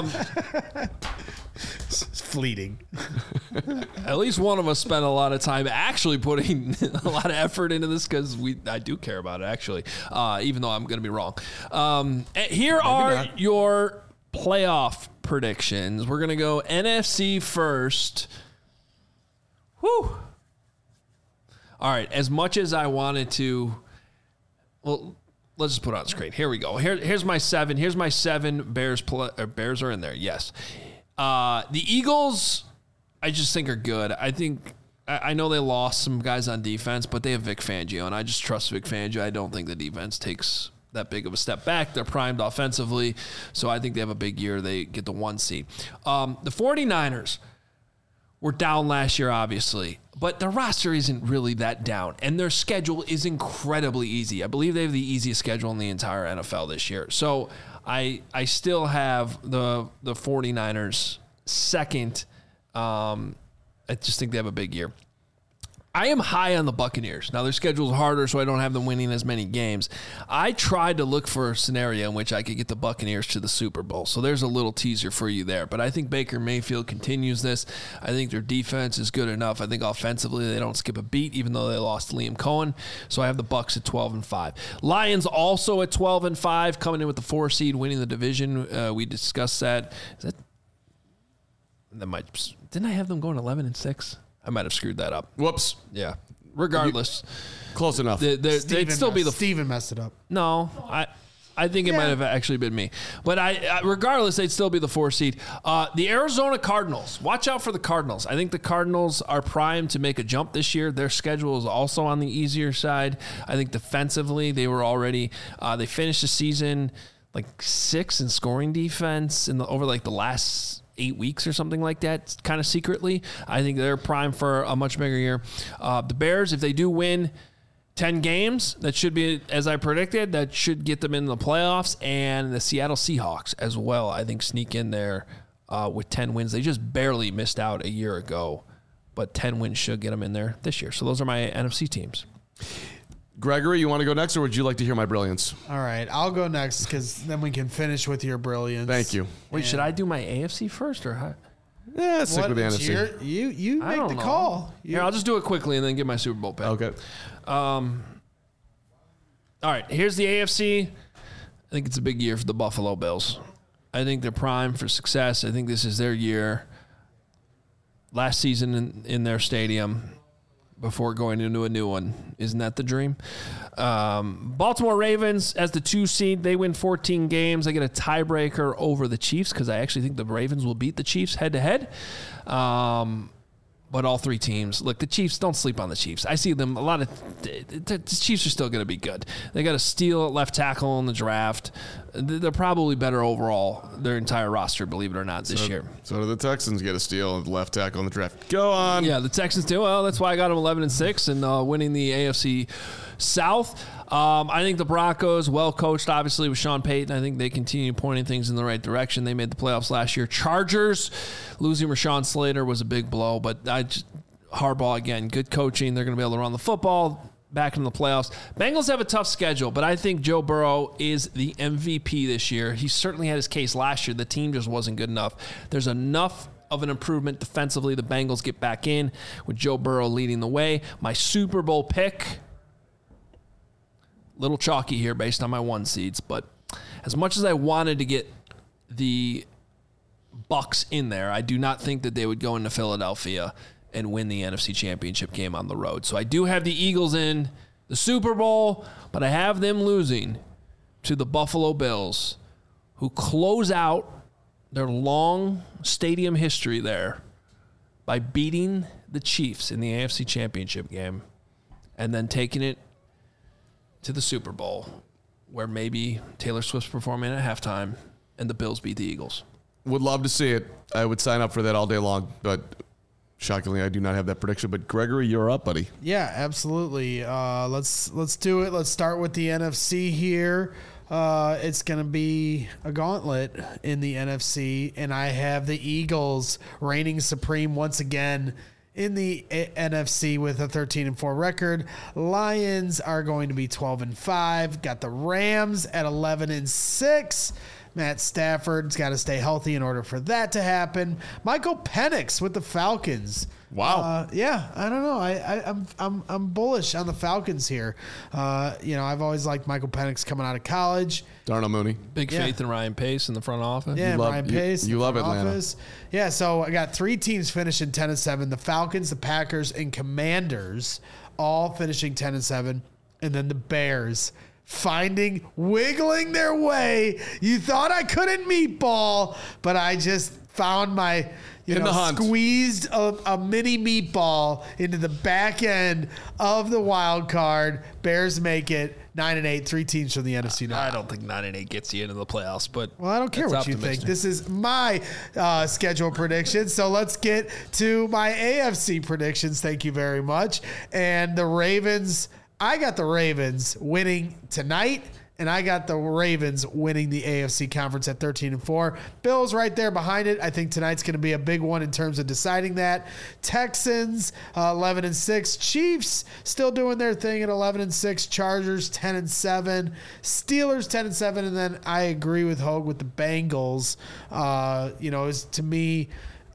It's fleeting. At least one of us spent a lot of time actually putting a lot of effort into this because I do care about it, actually, even though I'm going to be wrong. Here are not. your playoff predictions. We're going to go NFC first. Whew. All right. As much as I wanted to, well, let's just put it on screen. Here we go. Here's my 7. Here's my 7 Bears. Bears are in there. Yes. The Eagles, I just think are good. I know they lost some guys on defense, but they have Vic Fangio, and I just trust Vic Fangio. I don't think the defense takes that big of a step back. They're primed offensively, so I think they have a big year. They get the 1 seed. The 49ers were down last year, obviously, but their roster isn't really that down, and their schedule is incredibly easy. I believe they have the easiest schedule in the entire NFL this year. So I still have the 49ers second. I just think they have a big year. I am high on the Buccaneers. Now, their schedule is harder, so I don't have them winning as many games. I tried to look for a scenario in which I could get the Buccaneers to the Super Bowl, so there's a little teaser for you there. But I think Baker Mayfield continues this. I think their defense is good enough. I think offensively they don't skip a beat, even though they lost Liam Cohen. So I have the Bucs at 12-5. Lions also at 12-5, coming in with the 4 seed, winning the division. We discussed that. Didn't I have them going 11-6? I might have screwed that up. Whoops. Yeah. Regardless, Close enough. Steven messed it up. No, I think it might have actually been me. But regardless, they'd still be the 4 seed. The Arizona Cardinals. Watch out for the Cardinals. I think the Cardinals are primed to make a jump this year. Their schedule is also on the easier side. I think defensively, they were already they finished the season like 6th in scoring defense over the last 8 weeks or something like that, kind of secretly. I think they're primed for a much bigger year. The Bears, if they do win 10 games, that should be, as I predicted, that should get them in the playoffs. And the Seattle Seahawks as well, I think, sneak in there with 10 wins. They just barely missed out a year ago, but 10 wins should get them in there this year. So those are my NFC teams. Gregory, you want to go next, or would you like to hear my brilliance? All right, I'll go next because then we can finish with your brilliance. Thank you. Wait, should I do my AFC first or how? Yeah, stick with the NFC. You make the call. Here, I'll just do it quickly and then get my Super Bowl pick. Okay. All right, here's the AFC. I think it's a big year for the Buffalo Bills. I think they're primed for success. I think this is their year. Last season in their stadium before going into a new one. Isn't that the dream? Baltimore Ravens as the 2 seed. They win 14 games. They get a tiebreaker over the Chiefs because I actually think the Ravens will beat the Chiefs head-to-head. But all 3 teams, look, the Chiefs, don't sleep on the Chiefs. I see them, the Chiefs are still going to be good. They got a steal at left tackle in the draft. They're probably better overall, their entire roster, believe it or not, this year. So do the Texans get a steal at left tackle in the draft. Go on. Yeah, the Texans do. Well, that's why I got them 11-6 and winning the AFC South. I think the Broncos, well coached, obviously, with Sean Payton. I think they continue pointing things in the right direction. They made the playoffs last year. Chargers, losing Rashawn Slater was a big blow, but Harbaugh, again, good coaching. They're going to be able to run the football back in the playoffs. Bengals have a tough schedule, but I think Joe Burrow is the MVP this year. He certainly had his case last year. The team just wasn't good enough. There's enough of an improvement defensively. The Bengals get back in with Joe Burrow leading the way. My Super Bowl pick, little chalky here based on my 1 seeds, but as much as I wanted to get the Bucs in there, I do not think that they would go into Philadelphia and win the NFC Championship game on the road. So I do have the Eagles in the Super Bowl, but I have them losing to the Buffalo Bills, who close out their long stadium history there by beating the Chiefs in the AFC Championship game and then taking it to the Super Bowl, where maybe Taylor Swift's performing at halftime and the Bills beat the Eagles. Would love to see it. I would sign up for that all day long, but shockingly, I do not have that prediction. But Gregory, you're up, buddy. Yeah, absolutely. Let's do it. Let's start with the NFC here. it's going to be a gauntlet in the NFC, and I have the Eagles reigning supreme once again in the NFC with a 13-4 record. Lions are going to be 12-5. Got the Rams at 11-6. Matt Stafford's got to stay healthy in order for that to happen. Michael Penix with the Falcons. Wow. Yeah, I don't know. I'm bullish on the Falcons here. I've always liked Michael Penix coming out of college. Darnell Mooney. Big faith in Ryan Pace in the front office. Yeah, Ryan Pace. You love Atlanta. Office. Yeah, so I got 3 teams finishing 10-7. The Falcons, the Packers, and Commanders all finishing 10-7. And then the Bears wiggling their way. You thought I couldn't meatball, but I just found my, squeezed a mini meatball into the back end of the wild card. Bears make it 9-8, 3 teams from the NFC North. I don't think 9-8 gets you into the playoffs, but well, I don't care what you think. This is my schedule prediction. So let's get to my AFC predictions. Thank you very much. And the Ravens, I got the Ravens winning tonight, and I got the Ravens winning the AFC conference at 13-4. Bills right there behind it. I think tonight's going to be a big one in terms of deciding that. Texans 11-6. Chiefs still doing their thing at 11-6. Chargers 10-7. Steelers 10-7. And then I agree with Hogue with the Bengals. To me,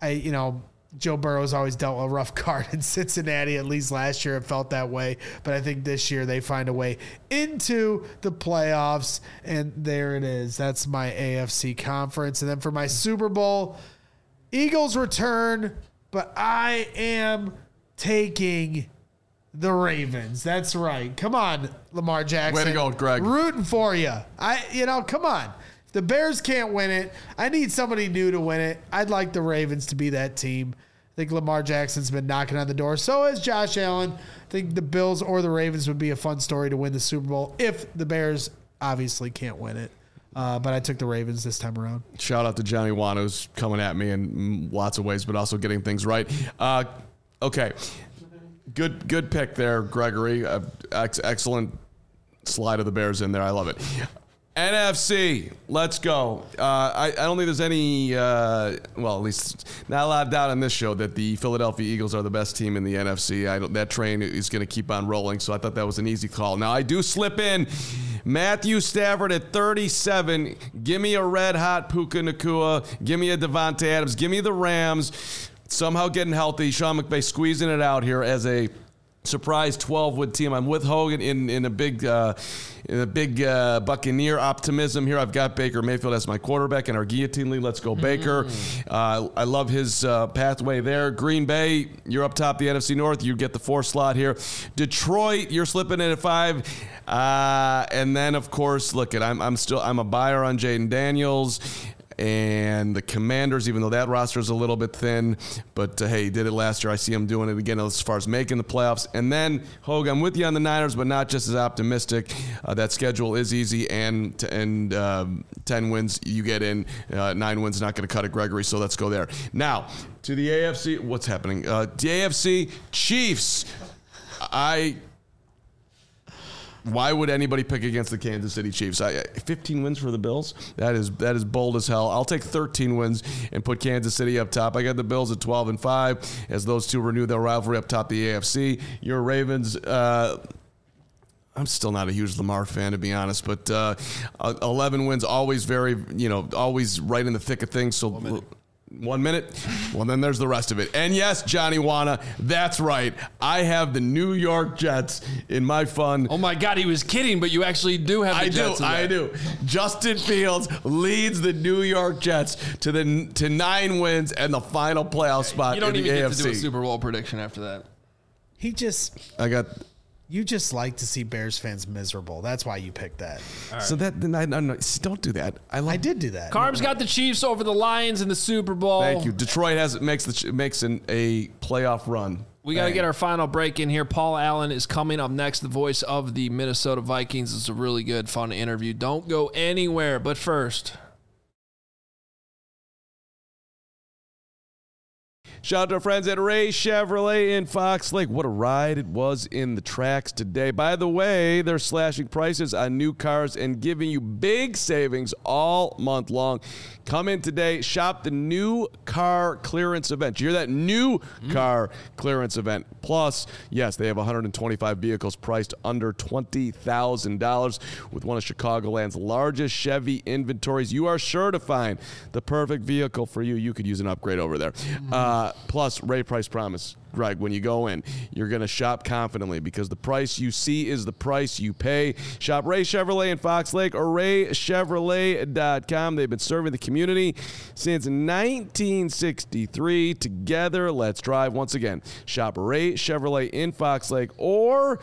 Joe Burrow's always dealt a rough card in Cincinnati. At least last year it felt that way. But I think this year they find a way into the playoffs. And there it is. That's my AFC conference. And then for my Super Bowl, Eagles return. But I am taking the Ravens. That's right. Come on, Lamar Jackson. Way to go, Greg. Rooting for you. Come on. The Bears can't win it. I need somebody new to win it. I'd like the Ravens to be that team. I think Lamar Jackson's been knocking on the door. So has Josh Allen. I think the Bills or the Ravens would be a fun story to win the Super Bowl if the Bears obviously can't win it. But I took the Ravens this time around. Shout out to Johnny Wan, who's coming at me in lots of ways, but also getting things right. Okay. Good pick there, Gregory. Excellent slide of the Bears in there. I love it. NFC, let's go. I don't think there's any, at least not a lot of doubt on this show that the Philadelphia Eagles are the best team in the NFC. That train is going to keep on rolling, so I thought that was an easy call. Now, I do slip in Matthew Stafford at 37. Give me a red-hot Puka Nacua. Give me a Devontae Adams. Give me the Rams. Somehow getting healthy. Sean McVay squeezing it out here as a surprise 12-win team. I'm with Hogan in a big Buccaneer optimism here. I've got Baker Mayfield as my quarterback in our guillotine league. Let's go, Baker. I love his pathway there. Green Bay, you're up top the NFC North. You get the 4 slot here. Detroit, you're slipping in at 5. And then, of course, I'm a buyer on Jaden Daniels. And the Commanders, even though that roster is a little bit thin, but hey, he did it last year. I see him doing it again as far as making the playoffs. And then, Hogue, I'm with you on the Niners, but not just as optimistic. That schedule is easy, and 10 wins you get in. 9 wins not going to cut it, Gregory, so let's go there. Now, to the AFC. What's happening? The AFC Chiefs. Why would anybody pick against the Kansas City Chiefs? 15 wins for the Bills? That is bold as hell. I'll take 13 wins and put Kansas City up top. I got the Bills at 12-5 as those two renew their rivalry up top the AFC. Your Ravens, I'm still not a huge Lamar fan, to be honest, but 11 wins, always always right in the thick of things. So 1 minute? Well, then there's the rest of it. And yes, Johnny Wana, that's right. I have the New York Jets in my fun. Oh, my God, he was kidding, but you actually do have the Jets. I do. Justin Fields leads the New York Jets to 9 wins and the final playoff spot in the AFC. You don't even get to do a Super Bowl prediction after that. You just like to see Bears fans miserable. That's why you picked that. Right. So don't do that. I did do that. Carb's got the Chiefs over the Lions in the Super Bowl. Thank you. Detroit makes a playoff run. We got to get our final break in here. Paul Allen is coming up next, the voice of the Minnesota Vikings. It's a really good, fun interview. Don't go anywhere. But first, Shout out to our friends at Ray Chevrolet in Fox Lake. What a ride it was in the tracks today. By the way, they're slashing prices on new cars and giving you big savings all month long. Come in today, shop the new car clearance event. You hear that? New car clearance event. Plus, yes, they have 125 vehicles priced under $20,000 with one of Chicagoland's largest Chevy inventories. You are sure to find the perfect vehicle for you. You could use an upgrade over there. Plus, Ray Price Promise. Greg, when you go in, you're going to shop confidently because the price you see is the price you pay. Shop Ray Chevrolet in Fox Lake or raychevrolet.com. They've been serving the community since 1963. Together, let's drive. Once again, shop Ray Chevrolet in Fox Lake or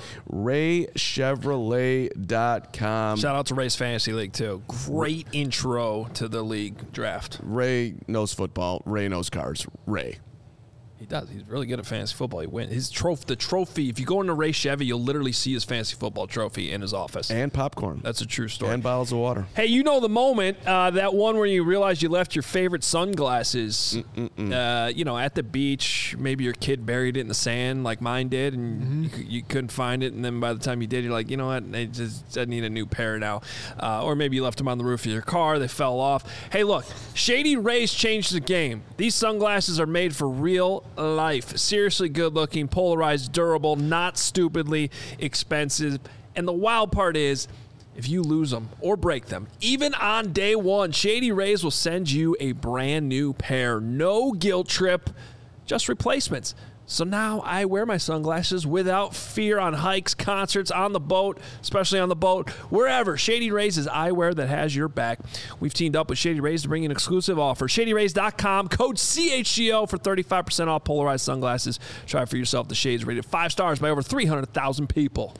raychevrolet.com. Shout out to Ray's Fantasy League, too. Great intro to the league draft. Ray knows football. Ray knows cars. Ray. He does. He's really good at fantasy football. He wins. His the trophy, if you go into Ray Chevy, you'll literally see his fantasy football trophy in his office. And popcorn. That's a true story. And bottles of water. Hey, you know the moment, that one where you realize you left your favorite sunglasses, at the beach. Maybe your kid buried it in the sand like mine did, and you couldn't find it. And then by the time you did, you're like, you know what? I need a new pair now. Or maybe you left them on the roof of your car. They fell off. Hey, look, Shady Rays changed the game. These sunglasses are made for real life. Seriously good looking, polarized, durable, not stupidly expensive. And the wild part is, if you lose them or break them, even on day one, Shady Rays will send you a brand new pair. No guilt trip, just replacements. So now I wear my sunglasses without fear on hikes, concerts, on the boat, especially on the boat, wherever. Shady Rays is eyewear that has your back. We've teamed up with Shady Rays to bring you an exclusive offer. ShadyRays.com, code CHGO for 35% off polarized sunglasses. Try for yourself. The Shades rated 5 stars by over 300,000 people.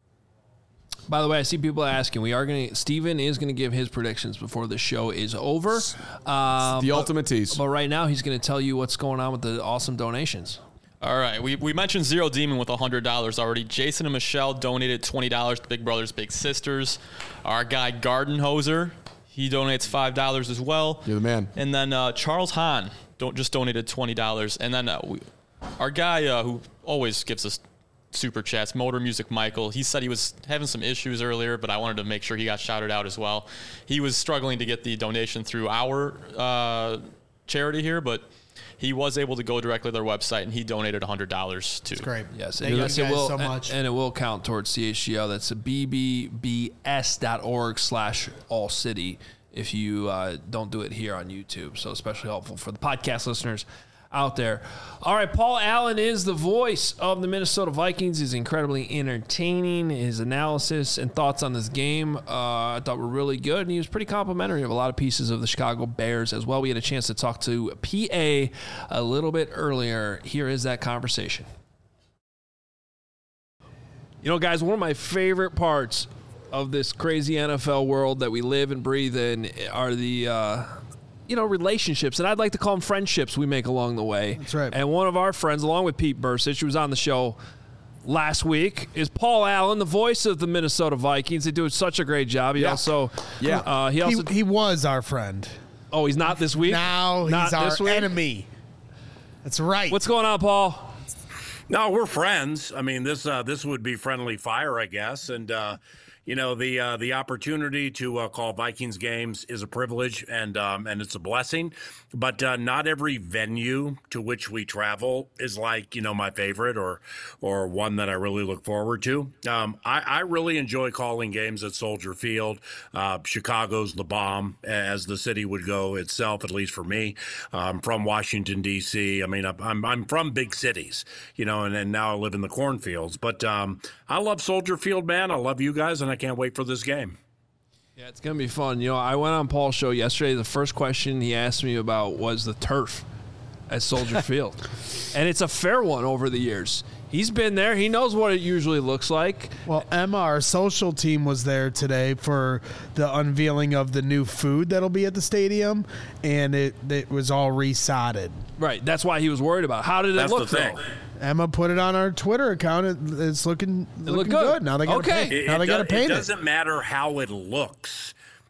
By the way, I see people asking. Steven is going to give his predictions before the show is over. The ultimate tease. But right now, he's going to tell you what's going on with the awesome donations. All right, we mentioned Zero Demon with $100 already. Jason and Michelle donated $20 to Big Brothers Big Sisters. Our guy Garden Hoser, he donates $5 as well. You're the man. And then Charles Hahn just donated $20. And then our guy who always gives us super chats, Motor Music Michael, he said he was having some issues earlier, but I wanted to make sure he got shouted out as well. He was struggling to get the donation through our charity here, but he was able to go directly to their website, and he donated $100 too. That's great. Yes, Thank you guys so much. And it will count towards CHGO. That's bbbs.org/allcity if you don't do it here on YouTube. So especially helpful for the podcast listeners out there. All right, Paul Allen is the voice of the Minnesota Vikings. He's incredibly entertaining. His analysis and thoughts on this game I thought were really good, and he was pretty complimentary of a lot of pieces of the Chicago Bears as well. We had a chance to talk to PA a little bit earlier. Here is that conversation. You know, guys, one of my favorite parts of this crazy NFL world that we live and breathe in are the relationships, and I'd like to call them friendships we make along the way. That's right. And one of our friends, along with Pete Bursich, who was on the show last week, is Paul Allen, the voice of the Minnesota Vikings. They do such a great job. He was our friend. Oh, he's not this week? Now he's our enemy. That's right. What's going on, Paul? No, we're friends. I mean, this would be friendly fire, I guess, and the opportunity to call Vikings games is a privilege and it's a blessing, but not every venue to which we travel is like, my favorite or one that I really look forward to. I really enjoy calling games at Soldier Field. Chicago's the bomb, as the city would go itself, at least for me. From Washington, D.C. I mean, I'm from big cities, and now I live in the cornfields, but I love Soldier Field, man. I love you guys, and I can't wait for this game. Yeah, it's going to be fun. I went on Paul's show yesterday. The first question he asked me about was the turf at Soldier Field. And it's a fair one over the years. He's been there. He knows what it usually looks like. Well, Emma, our social team, was there today for the unveiling of the new food that'll be at the stadium, and it was all resodded. Right. That's why he was worried about. How did it look, though? Emma put it on our Twitter account. It's looking good. Now they got to paint. Now they got to paint it. It doesn't matter how it looks.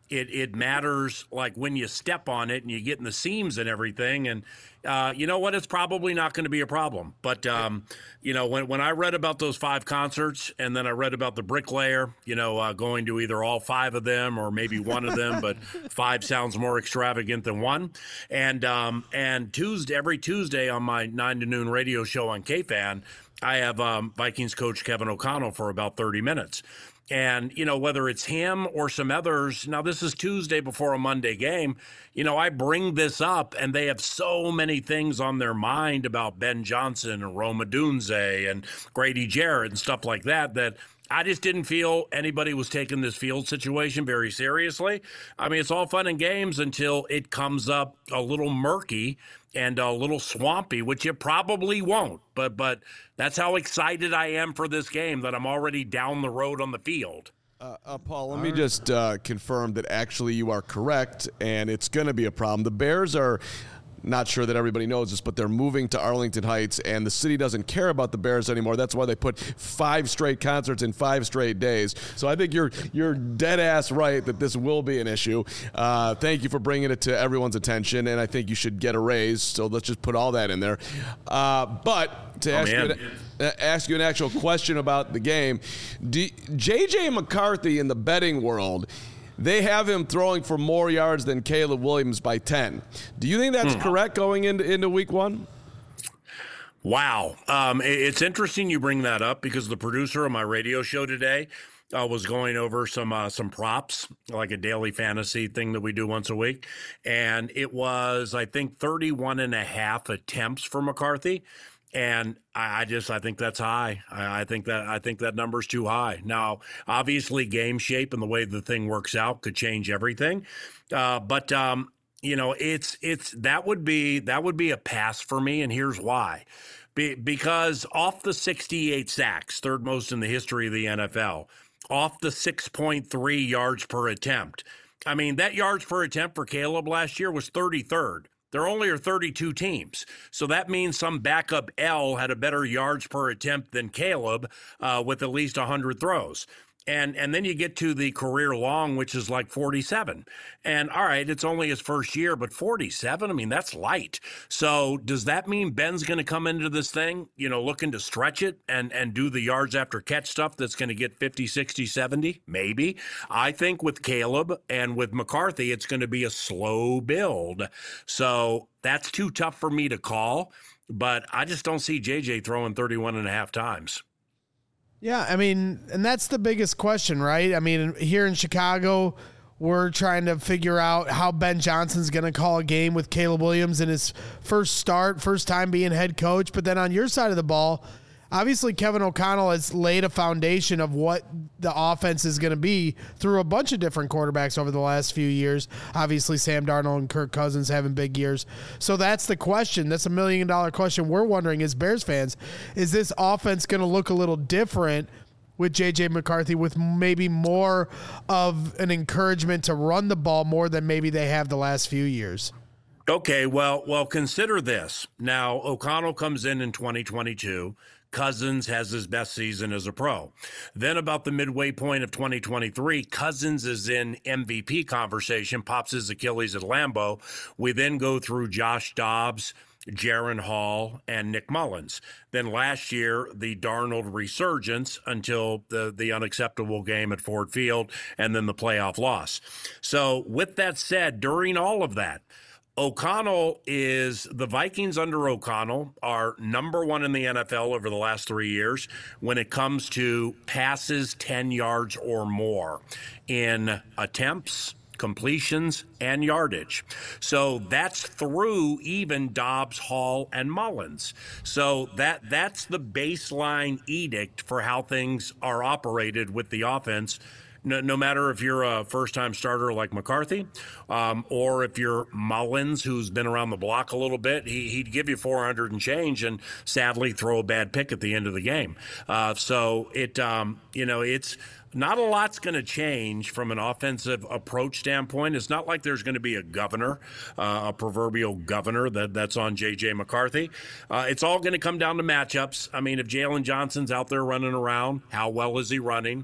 it matters like when you step on it and you get in the seams and everything. And you know what? It's probably not going to be a problem. But, you know, when I read about those 5 concerts and then I read about the Bricklayer, you know, going to either all 5 of them or maybe one of them, but 5 sounds more extravagant than one. And every Tuesday on my 9 to noon radio show on KFAN, I have Vikings coach Kevin O'Connell for about 30 minutes. And, you know, whether it's him or some others, now this is Tuesday before a Monday game, you know, I bring this up and they have so many things on their mind about Ben Johnson and Rome Odunze and Grady Jarrett and stuff like that, that I just didn't feel anybody was taking this field situation very seriously. I mean, it's all fun and games until it comes up a little murky and a little swampy, which it probably won't. But that's how excited I am for this game, that I'm already down the road on the field. Paul, let me just confirm that actually you are correct, and it's going to be a problem. The Bears are... Not sure that everybody knows this, but they're moving to Arlington Heights, and the city doesn't care about the Bears anymore. That's why they put 5 straight concerts in 5 straight days. So I think you're dead ass right that this will be an issue. Thank you for bringing it to everyone's attention, and I think you should get a raise. So let's just put all that in there. But to ask you an actual question about the game, J.J. McCarthy in the betting world, they have him throwing for more yards than Caleb Williams by 10. Do you think that's correct going into week 1? Wow. It's interesting you bring that up because the producer of my radio show today was going over some props, like a daily fantasy thing that we do once a week. And it was, I think, 31.5 attempts for McCarthy. And I think that's high. I think that number's too high. Now, obviously, game shape and the way the thing works out could change everything. But you know, that would be a pass for me, and here's why. Because off the 68 sacks, third most in the history of the NFL, off the 6.3 yards per attempt. I mean, that yards per attempt for Caleb last year was 33rd. There only are 32 teams. So that means some backup L had a better yards per attempt than Caleb with at least 100 throws. And then you get to the career long, which is like 47. And all right, it's only his first year, but 47, I mean, that's light. So does that mean Ben's going to come into this thing, you know, looking to stretch it and do the yards after catch stuff that's going to get 50, 60, 70? Maybe. I think with Caleb and with McCarthy, it's going to be a slow build. So that's too tough for me to call, but I just don't see JJ throwing 31.5 times. Yeah, I mean, and that's the biggest question, right? I mean, here in Chicago, we're trying to figure out how Ben Johnson's going to call a game with Caleb Williams in his first time being head coach. But then on your side of the ball, obviously Kevin O'Connell has laid a foundation of what the offense is going to be through a bunch of different quarterbacks over the last few years. Obviously, Sam Darnold and Kirk Cousins having big years. So that's the question. That's $1 million question we're wondering as Bears fans. Is this offense going to look a little different with J.J. McCarthy, with maybe more of an encouragement to run the ball more than maybe they have the last few years? Okay, well, consider this. Now, O'Connell comes in 2022. Cousins has his best season as a pro. Then about the midway point of 2023, Cousins is in MVP conversation, pops his Achilles at Lambeau. We then go through Josh Dobbs, Jaron Hall, and Nick Mullins. Then last year, the Darnold resurgence until the unacceptable game at Ford Field, and then the playoff loss. So with that said, during all of that, the Vikings under O'Connell are number 1 in the NFL over the last 3 years when it comes to passes 10 yards or more in attempts, completions, and yardage. So that's through even Dobbs, Hall, and Mullins. So that's the baseline edict for how things are operated with the offense. No matter if you're a first-time starter like McCarthy or if you're Mullins, who's been around the block a little bit, he'd give you 400 and change and sadly throw a bad pick at the end of the game. So it's not a lot's going to change from an offensive approach standpoint. It's not like there's going to be a governor, a proverbial governor that's on J.J. McCarthy. It's all going to come down to matchups. I mean, if Jalen Johnson's out there running around, how well is he running?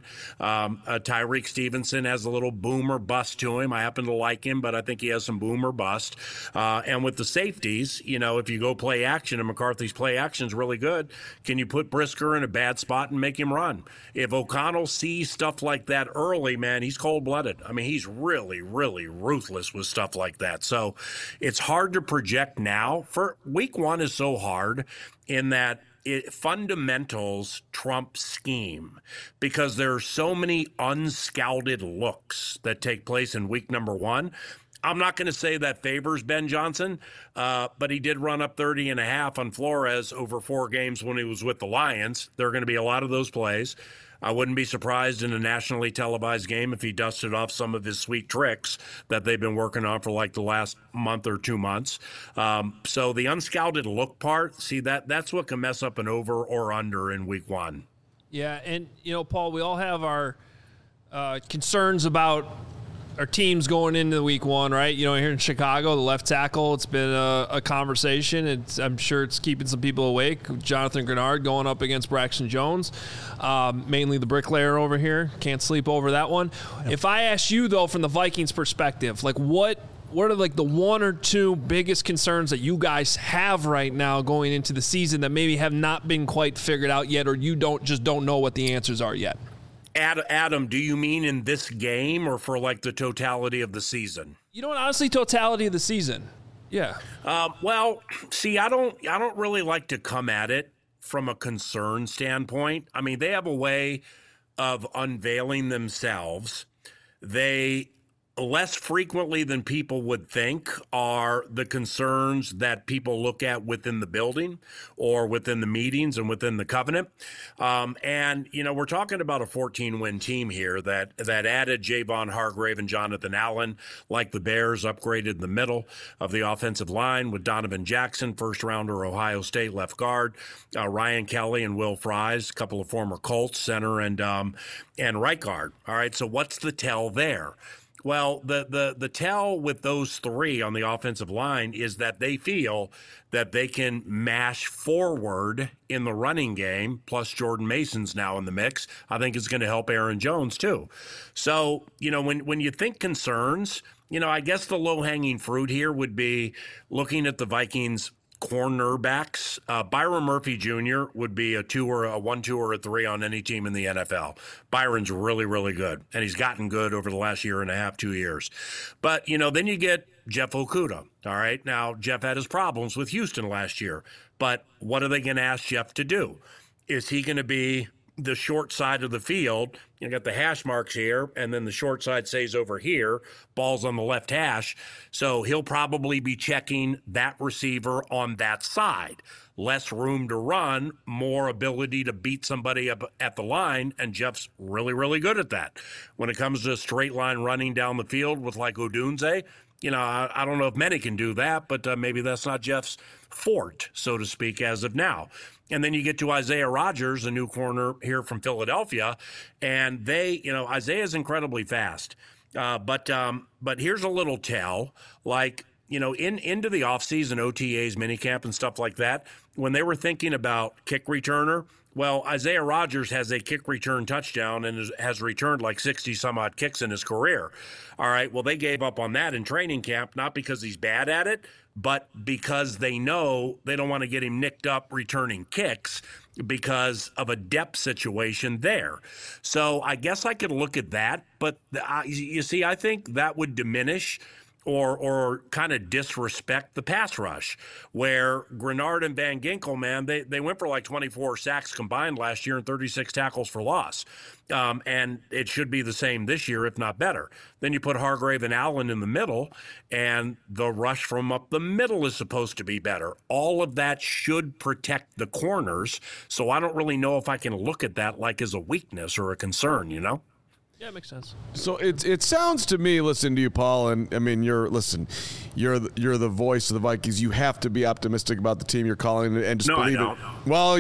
Tyreek Stevenson has a little boom or bust to him. I happen to like him, but I think he has some boom or bust. And with the safeties, if you go play action and McCarthy's play action is really good, can you put Brisker in a bad spot and make him run? If O'Connell sees stuff like that early, man, he's cold-blooded. I mean, he's really, really ruthless with stuff like that. So it's hard to project now. For week one is so hard in that fundamentals trump scheme because there are so many unscouted looks that take place in week number one. I'm not going to say that favors Ben Johnson, but he did run up 30.5 on Flores over 4 games when he was with the Lions. There are going to be a lot of those plays. I wouldn't be surprised in a nationally televised game if he dusted off some of his sweet tricks that they've been working on for like the last month or 2 months. So the unscouted look part, see, that's what can mess up an over or under in week one. Yeah, and, Paul, we all have our concerns about our teams going into week one, right? Here in Chicago, the left tackle, it's been a conversation. I'm sure it's keeping some people awake. Jonathan Grenard going up against Braxton Jones, mainly the bricklayer over here. Can't sleep over that one. Yep. If I ask you, though, from the Vikings perspective, like what are like the 1 or 2 biggest concerns that you guys have right now going into the season that maybe have not been quite figured out yet, or you don't know what the answers are yet? Adam, do you mean in this game or for like the totality of the season? Honestly, totality of the season. Yeah. Well, see, I don't really like to come at it from a concern standpoint. I mean, they have a way of unveiling themselves. They less frequently than people would think are the concerns that people look at within the building or within the meetings and within the covenant. And we're talking about a 14-win team here that added Javon Hargrave and Jonathan Allen, like the Bears, upgraded the middle of the offensive line with Donovan Jackson, first-rounder Ohio State left guard, Ryan Kelly and Will Fries, a couple of former Colts, center and right guard. All right, so what's the tell there? Well, the tell with those 3 on the offensive line is that they feel that they can mash forward in the running game, plus Jordan Mason's now in the mix. I think it's going to help Aaron Jones too. So, when you think concerns, I guess the low-hanging fruit here would be looking at the Vikings cornerbacks. Byron Murphy Jr. would be a 1, 2, or a 3 on any team in the NFL. Byron's really, really good, and he's gotten good over the last year and a half, 2 years. But, then you get Jeff Okudah. All right. Now, Jeff had his problems with Houston last year, but what are they going to ask Jeff to do? Is he going to be the short side of the field? You got the hash marks here, and then the short side stays over here. Ball's on the left hash. So he'll probably be checking that receiver on that side. Less room to run, more ability to beat somebody up at the line, and Jeff's really, really good at that. When it comes to straight line running down the field with like Odunze, I don't know if many can do that, but maybe that's not Jeff's fort, so to speak, as of now. And then you get to Isaiah Rodgers, a new corner here from Philadelphia, and Isaiah's incredibly fast. But here's a little tell, like, into the offseason, OTAs, minicamp, and stuff like that, when they were thinking about kick returner, well, Isaiah Rodgers has a kick return touchdown and has returned like 60-some-odd kicks in his career. All right, well, they gave up on that in training camp, not because he's bad at it, but because they know they don't want to get him nicked up returning kicks because of a depth situation there. So I guess I could look at that, but you see, I think that would diminish or kind of disrespect the pass rush, where Grenard and Van Ginkel, man, they went for like 24 sacks combined last year and 36 tackles for loss. And it should be the same this year, if not better. Then you put Hargrave and Allen in the middle, and the rush from up the middle is supposed to be better. All of that should protect the corners, so I don't really know if I can look at that like as a weakness or a concern, Yeah, it makes sense. So it sounds to me, listen to you, Paul, and I mean you're the voice of the Vikings. You have to be optimistic about the team you're calling and just believe it. Well,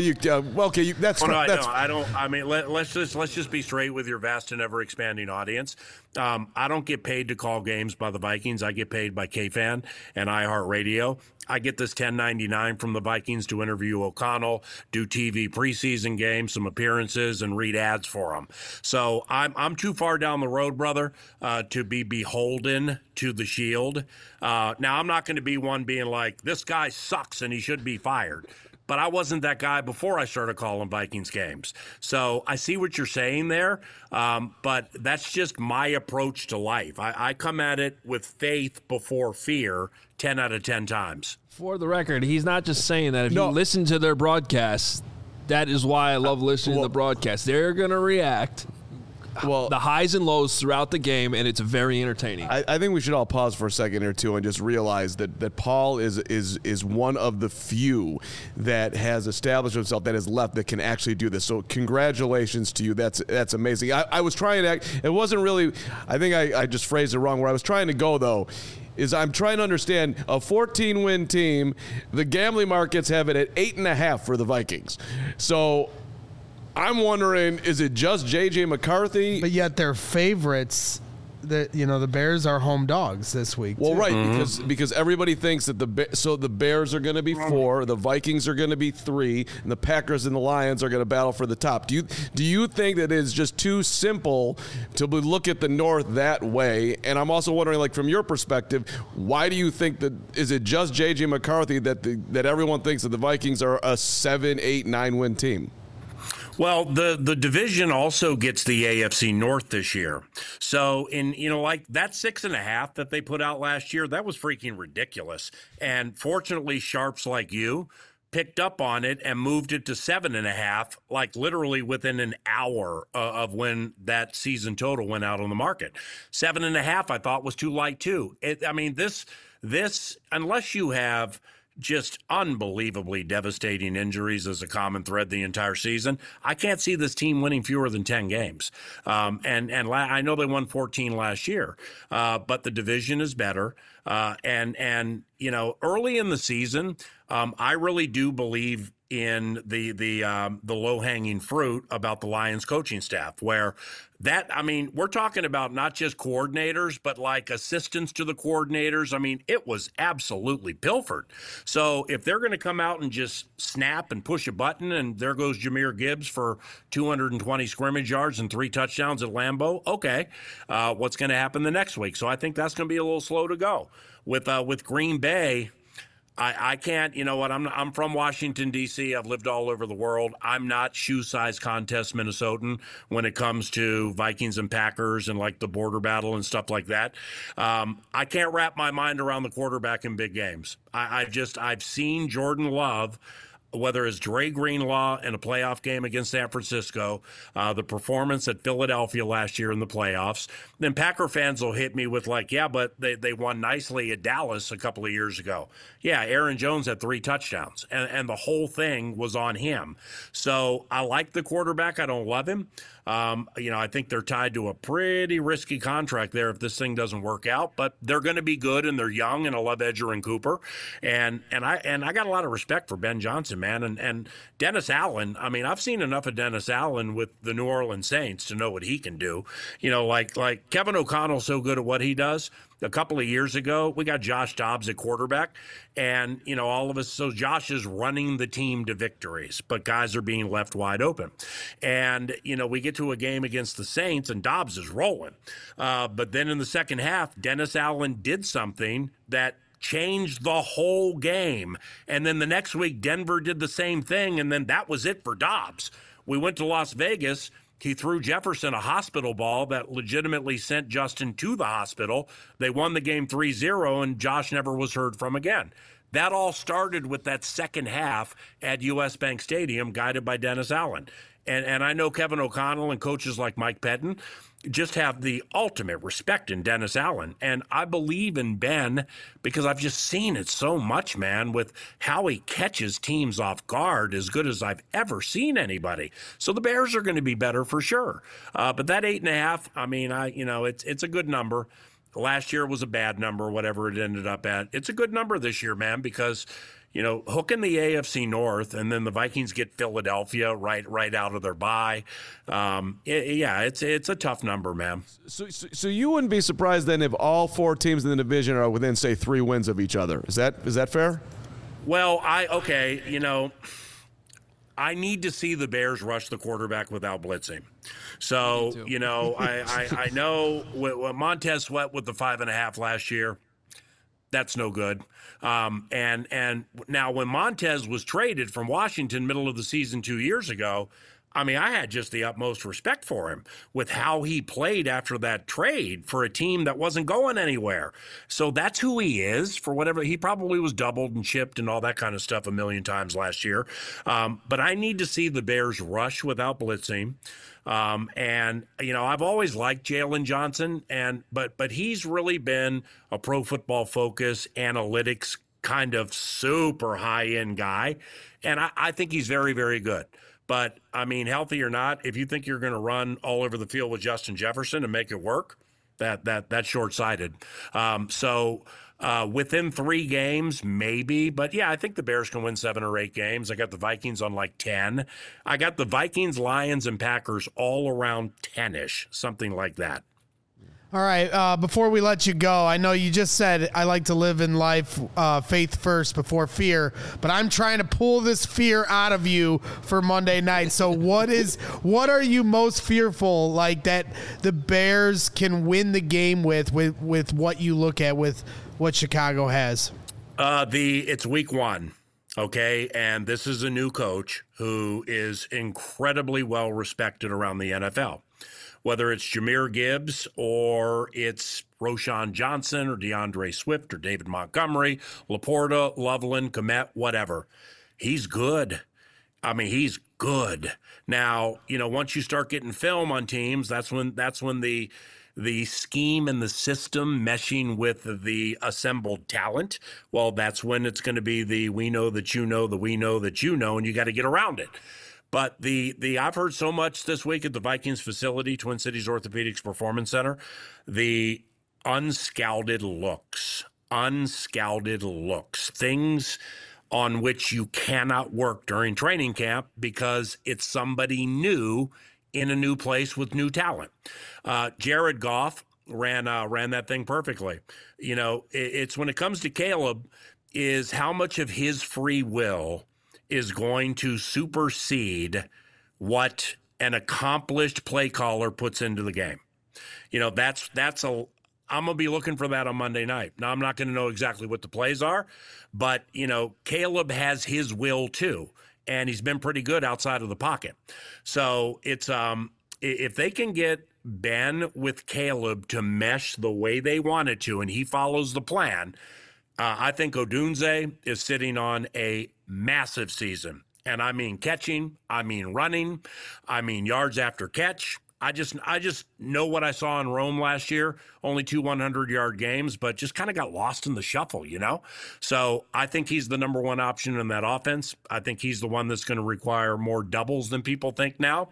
that's I don't. I mean, let's just be straight with your vast and ever expanding audience. I don't get paid to call games by the Vikings. I get paid by KFan and iHeartRadio. I get this $10.99 from the Vikings to interview O'Connell, do TV preseason games, some appearances, and read ads for them. So I'm too far down the road, brother, to be beholden to the Shield. Now, I'm not going to be one being like, this guy sucks and he should be fired. But I wasn't that guy before I started calling Vikings games. So I see what you're saying there, but that's just my approach to life. I come at it with faith before fear 10 out of 10 times. For the record, he's not just saying that. If you listen to their broadcasts, that is why I love listening to the broadcast. They're going to react. Well, the highs and lows throughout the game, and it's very entertaining. I think we should all pause for a second or two and just realize that Paul is one of the few that has established himself, that has left, that can actually do this. So congratulations to you. That's amazing. I was trying to act. It wasn't really. I think I just phrased it wrong. Where I was trying to go though is I'm trying to understand a 14-win team. The gambling markets have it at 8.5 for the Vikings. So I'm wondering, is it just J.J. McCarthy? But yet they're favorites. The Bears are home dogs this week. Well, too. Right, because everybody thinks that the Bears are going to be 4, the Vikings are going to be 3, and the Packers and the Lions are going to battle for the top. Do you think that it's just too simple to look at the North that way? And I'm also wondering, like, from your perspective, why do you think that, is it just J.J. McCarthy that everyone thinks that the Vikings are a 7, 8, 9 win team? Well, the division also gets the AFC North this year. So like that 6.5 that they put out last year, that was freaking ridiculous. And fortunately, sharps like you picked up on it and moved it to 7.5, like literally within an hour of when that season total went out on the market. 7.5, I thought, was too light too. This unless you have just unbelievably devastating injuries as a common thread the entire season, I can't see this team winning fewer than 10 games. And I know they won 14 last year, but the division is better. And early in the season, I really do believe in the low-hanging fruit about the Lions coaching staff, where we're talking about not just coordinators, but like assistants to the coordinators. I mean, it was absolutely pilfered. So if they're going to come out and just snap and push a button, and there goes Jahmyr Gibbs for 220 scrimmage yards and 3 touchdowns at Lambeau, okay, what's going to happen the next week? So I think that's going to be a little slow to go. With Green Bay, I can't, you know what, I'm from Washington, D.C. I've lived all over the world. I'm not shoe-size contest Minnesotan when it comes to Vikings and Packers and like the border battle and stuff like that. I can't wrap my mind around the quarterback in big games. I've seen Jordan Love, whether it's Dre Greenlaw in a playoff game against San Francisco, the performance at Philadelphia last year in the playoffs, then Packer fans will hit me with like, yeah, but they won nicely at Dallas a couple of years ago. Yeah, Aaron Jones had 3 touchdowns, and the whole thing was on him. So I like the quarterback. I don't love him. I think they're tied to a pretty risky contract there if this thing doesn't work out, but they're going to be good, and they're young, and I love Edger and Cooper. And I got a lot of respect for Ben Johnson, man. And Dennis Allen, I mean, I've seen enough of Dennis Allen with the New Orleans Saints to know what he can do. Like Kevin O'Connell's so good at what he does. A couple of years ago, we got Josh Dobbs at quarterback, and, all of us, so Josh is running the team to victories, but guys are being left wide open. And, we get to a game against the Saints, and Dobbs is rolling. But then in the second half, Dennis Allen did something that changed the whole game. And then the next week, Denver did the same thing, and then that was it for Dobbs. We went to Las Vegas. He threw Jefferson a hospital ball that legitimately sent Justin to the hospital. They won the game 3-0, and Josh never was heard from again. That all started with that second half at US Bank Stadium, guided by Dennis Allen. And I know Kevin O'Connell and coaches like Mike Pettin just have the ultimate respect in Dennis Allen. And I believe in Ben because I've just seen it so much, man, with how he catches teams off guard as good as I've ever seen anybody. So the Bears are going to be better for sure. But that 8.5, I mean, it's a good number. Last year was a bad number, whatever it ended up at. It's a good number this year, man, because hooking the AFC North, and then the Vikings get Philadelphia right out of their bye. It's a tough number, man. So you wouldn't be surprised then if all 4 teams in the division are within, say, 3 wins of each other. Is that fair? Well, I need to see the Bears rush the quarterback without blitzing. So, I know what Montez Sweat with the 5.5 last year, that's no good. And now when Montez was traded from Washington middle of the season 2 years ago, I mean, I had just the utmost respect for him with how he played after that trade for a team that wasn't going anywhere. So that's who he is for whatever. He probably was doubled and chipped and all that kind of stuff a million times last year. But I need to see the Bears rush without blitzing. I've always liked Jalen Johnson, but he's really been a Pro Football Focus analytics kind of super high-end guy, and I think he's very, very good. But, I mean, healthy or not, if you think you're going to run all over the field with Justin Jefferson and make it work, that's short-sighted. Within 3 games, maybe. But, yeah, I think the Bears can win 7 or 8 games. I got the Vikings on like 10. I got the Vikings, Lions, and Packers all around 10-ish, something like that. All right, before we let you go, I know you just said I like to live in life faith first before fear, but I'm trying to pull this fear out of you for Monday night. So what are you most fearful, like, that the Bears can win the game with what you look at with what Chicago has? It's week 1. Okay, and this is a new coach who is incredibly well respected around the NFL. Whether it's Jahmyr Gibbs or it's Roschon Johnson or DeAndre Swift or David Montgomery, Laporta, Loveland, Kmet, whatever. He's good. I mean, he's good. Now, once you start getting film on teams, that's when the scheme and the system meshing with the assembled talent, well, that's when it's going to be the we know that you know, the we know that you know, and you got to get around it. But I've heard so much this week at the Vikings facility, Twin Cities Orthopedics Performance Center, the unscouted looks, things on which you cannot work during training camp because it's somebody new in a new place with new talent. Jared Goff ran that thing perfectly. It's when it comes to Caleb, is how much of his free will is going to supersede what an accomplished play caller puts into the game. I'm going to be looking for that on Monday night. Now, I'm not going to know exactly what the plays are, but, Caleb has his will too, and he's been pretty good outside of the pocket. So it's if they can get Ben with Caleb to mesh the way they want it to, and he follows the plan, I think Odunze is sitting on a massive season. And I mean catching, I mean running, I mean yards after catch. I just know what I saw in Rome last year, only 2 100-yard games, but just kind of got lost in the shuffle, So I think he's the number 1 option in that offense. I think he's the one that's going to require more doubles than people think now.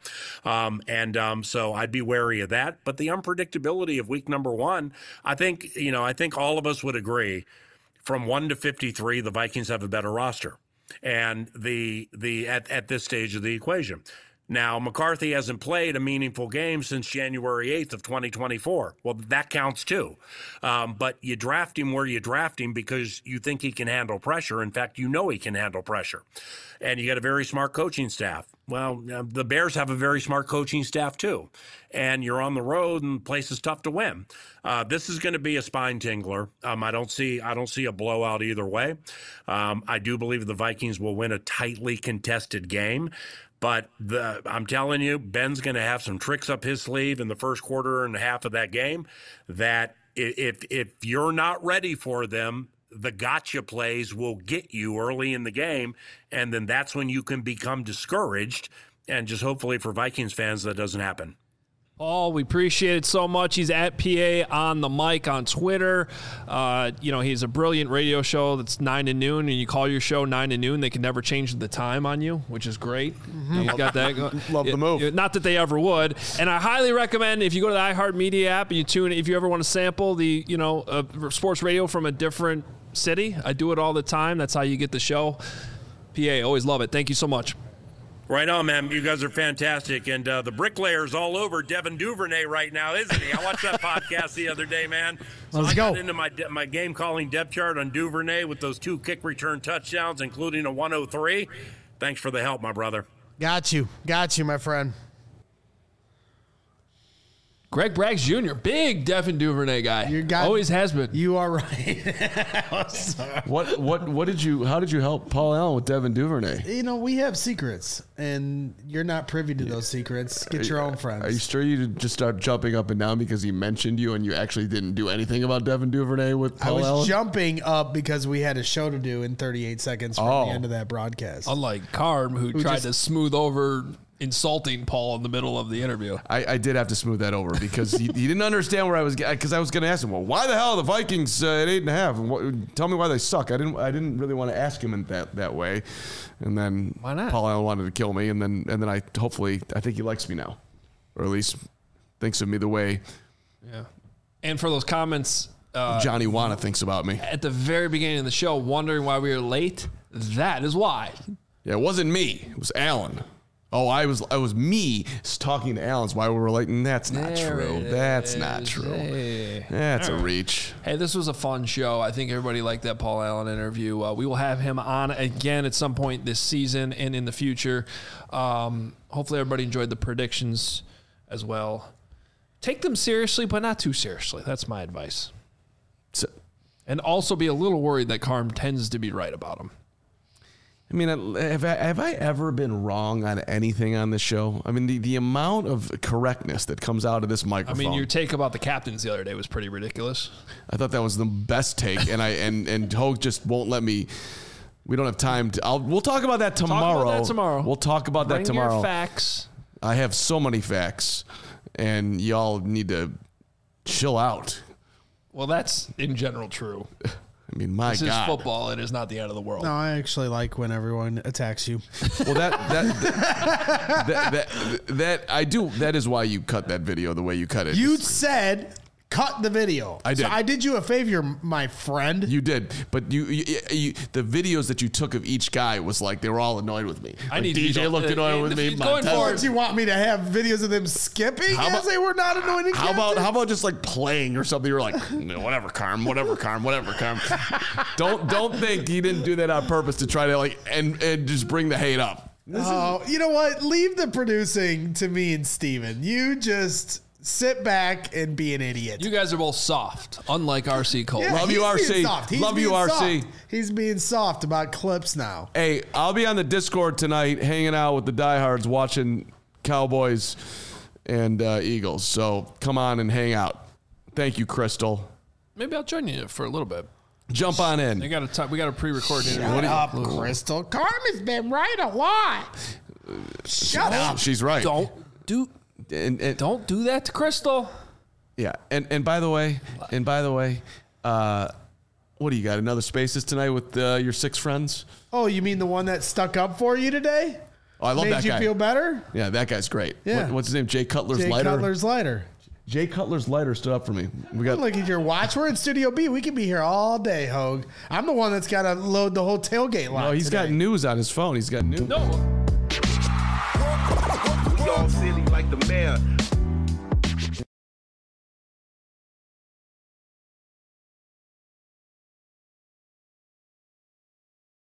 So I'd be wary of that. But the unpredictability of week number 1, I think all of us would agree, from 1 to 53, the Vikings have a better roster, and at this stage of the equation. Now, McCarthy hasn't played a meaningful game since January 8th of 2024. Well, that counts too. But you draft him where you draft him because you think he can handle pressure. In fact, he can handle pressure. And you got a very smart coaching staff. Well, the Bears have a very smart coaching staff too. And you're on the road and the place is tough to win. This is going to be a spine tingler. I don't see a blowout either way. I do believe the Vikings will win a tightly contested game. But I'm telling you, Ben's going to have some tricks up his sleeve in the first quarter and a half of that game that if you're not ready for them, the gotcha plays will get you early in the game, and then that's when you can become discouraged. And just hopefully for Vikings fans, that doesn't happen. Paul, we appreciate it so much. He's at PA on the mic on Twitter. He's a brilliant radio show that's 9 to noon, and you call your show 9 to noon. They can never change the time on you, which is great. He's got that. Love the move. Not that they ever would. And I highly recommend if you go to the iHeartMedia app and you tune in, if you ever want to sample the sports radio from a different city. I do it all the time. That's how you get the show. PA, always love it. Thank you so much. Right on, man. You guys are fantastic. And the bricklayer's all over Devin Duvernay right now, isn't he? I watched that podcast the other day, man. So Let's I got go. into my game calling depth chart on Duvernay with those 2 kick return touchdowns, including a 103. Thanks for the help, my brother. Got you, my friend. Greg Braggs Jr., big Devin Duvernay guy. Always has been. You are right. What did you? How did you help Paul Allen with Devin Duvernay? We have secrets, and you're not privy to those secrets. Get your own friends. Are you sure you did just start jumping up and down because he mentioned you and you actually didn't do anything about Devin Duvernay with Paul Allen? I was jumping up because we had a show to do in 38 seconds from the end of that broadcast. Unlike Carm, who tried to smooth over insulting Paul in the middle of the interview. I did have to smooth that over because he didn't understand where I was, because I was going to ask him, well, why the hell are the Vikings at 8.5? And tell me why they suck. I didn't really want to ask him in that way. And then why not? Paul Allen wanted to kill me, and then I think he likes me now, or at least thinks of me the way. Yeah. And for those comments, Johnny Wanna thinks about me at the very beginning of the show, wondering why we were late. That is why. Yeah, it wasn't me. It was Allen. Oh, I was me talking to Allen's why we were late, and that's not true. That's not true. Hey. That's a reach. Hey, this was a fun show. I think everybody liked that Paul Allen interview. We will have him on again at some point this season and in the future. Hopefully everybody enjoyed the predictions as well. Take them seriously, but not too seriously. That's my advice. And also be a little worried that Carm tends to be right about them. I mean, have I ever been wrong on anything on this show? I mean, the amount of correctness that comes out of this microphone. I mean, your take about the captains the other day was pretty ridiculous. I thought that was the best take, and Hogue just won't let me. We don't have time to. We'll talk about that tomorrow. We'll talk about that tomorrow. Bring your facts. I have so many facts, and y'all need to chill out. Well, that's in general true. I mean, my God. This is football. It is not the end of the world. No, I actually like when everyone attacks you. Well, that I do. That is why you cut that video the way you cut it. You said cut the video. I did. So I did you a favor, my friend. You did, but you the videos that you took of each guy was like they were all annoyed with me. I need DJ looked annoyed with me. Going forward, do you want me to have videos of them skipping as they were not anointed? How about just like playing or something? You're like, whatever, Carm, whatever, Carm. Don't think he didn't do that on purpose to try to like and just bring the hate up. You know what? Leave the producing to me and Steven. You just sit back and be an idiot. you guys are both soft, unlike RC Cole. Yeah, Love you, he's being RC. soft. Love you, RC. Soft. He's being soft about clips now. Hey, I'll be on the Discord tonight, hanging out with the diehards, watching Cowboys and Eagles. So come on and hang out. Thank you, Crystal. Maybe I'll join you for a little bit. Jump on in. We got a pre-recorded interview. Shut up, Crystal. Carmen's been right a lot. Shut up. She's right. Don't do that to Crystal. Yeah, and by the way, what do you got? Another Spaces tonight with your 6 friends? Oh, you mean the one that stuck up for you today? Oh, I love that guy. Made you feel better? Yeah, that guy's great. Yeah. What's his name? Jay Cutler's Jay Lighter. Cutler's Lighter. Jay Cutler's Lighter stood up for me. We got. Look at your watch. We're in Studio B. We can be here all day, Hogue. I'm the one that's got to load the whole tailgate line. No, he's today. got news on his phone. He's got news. No. We all silly like the mayor.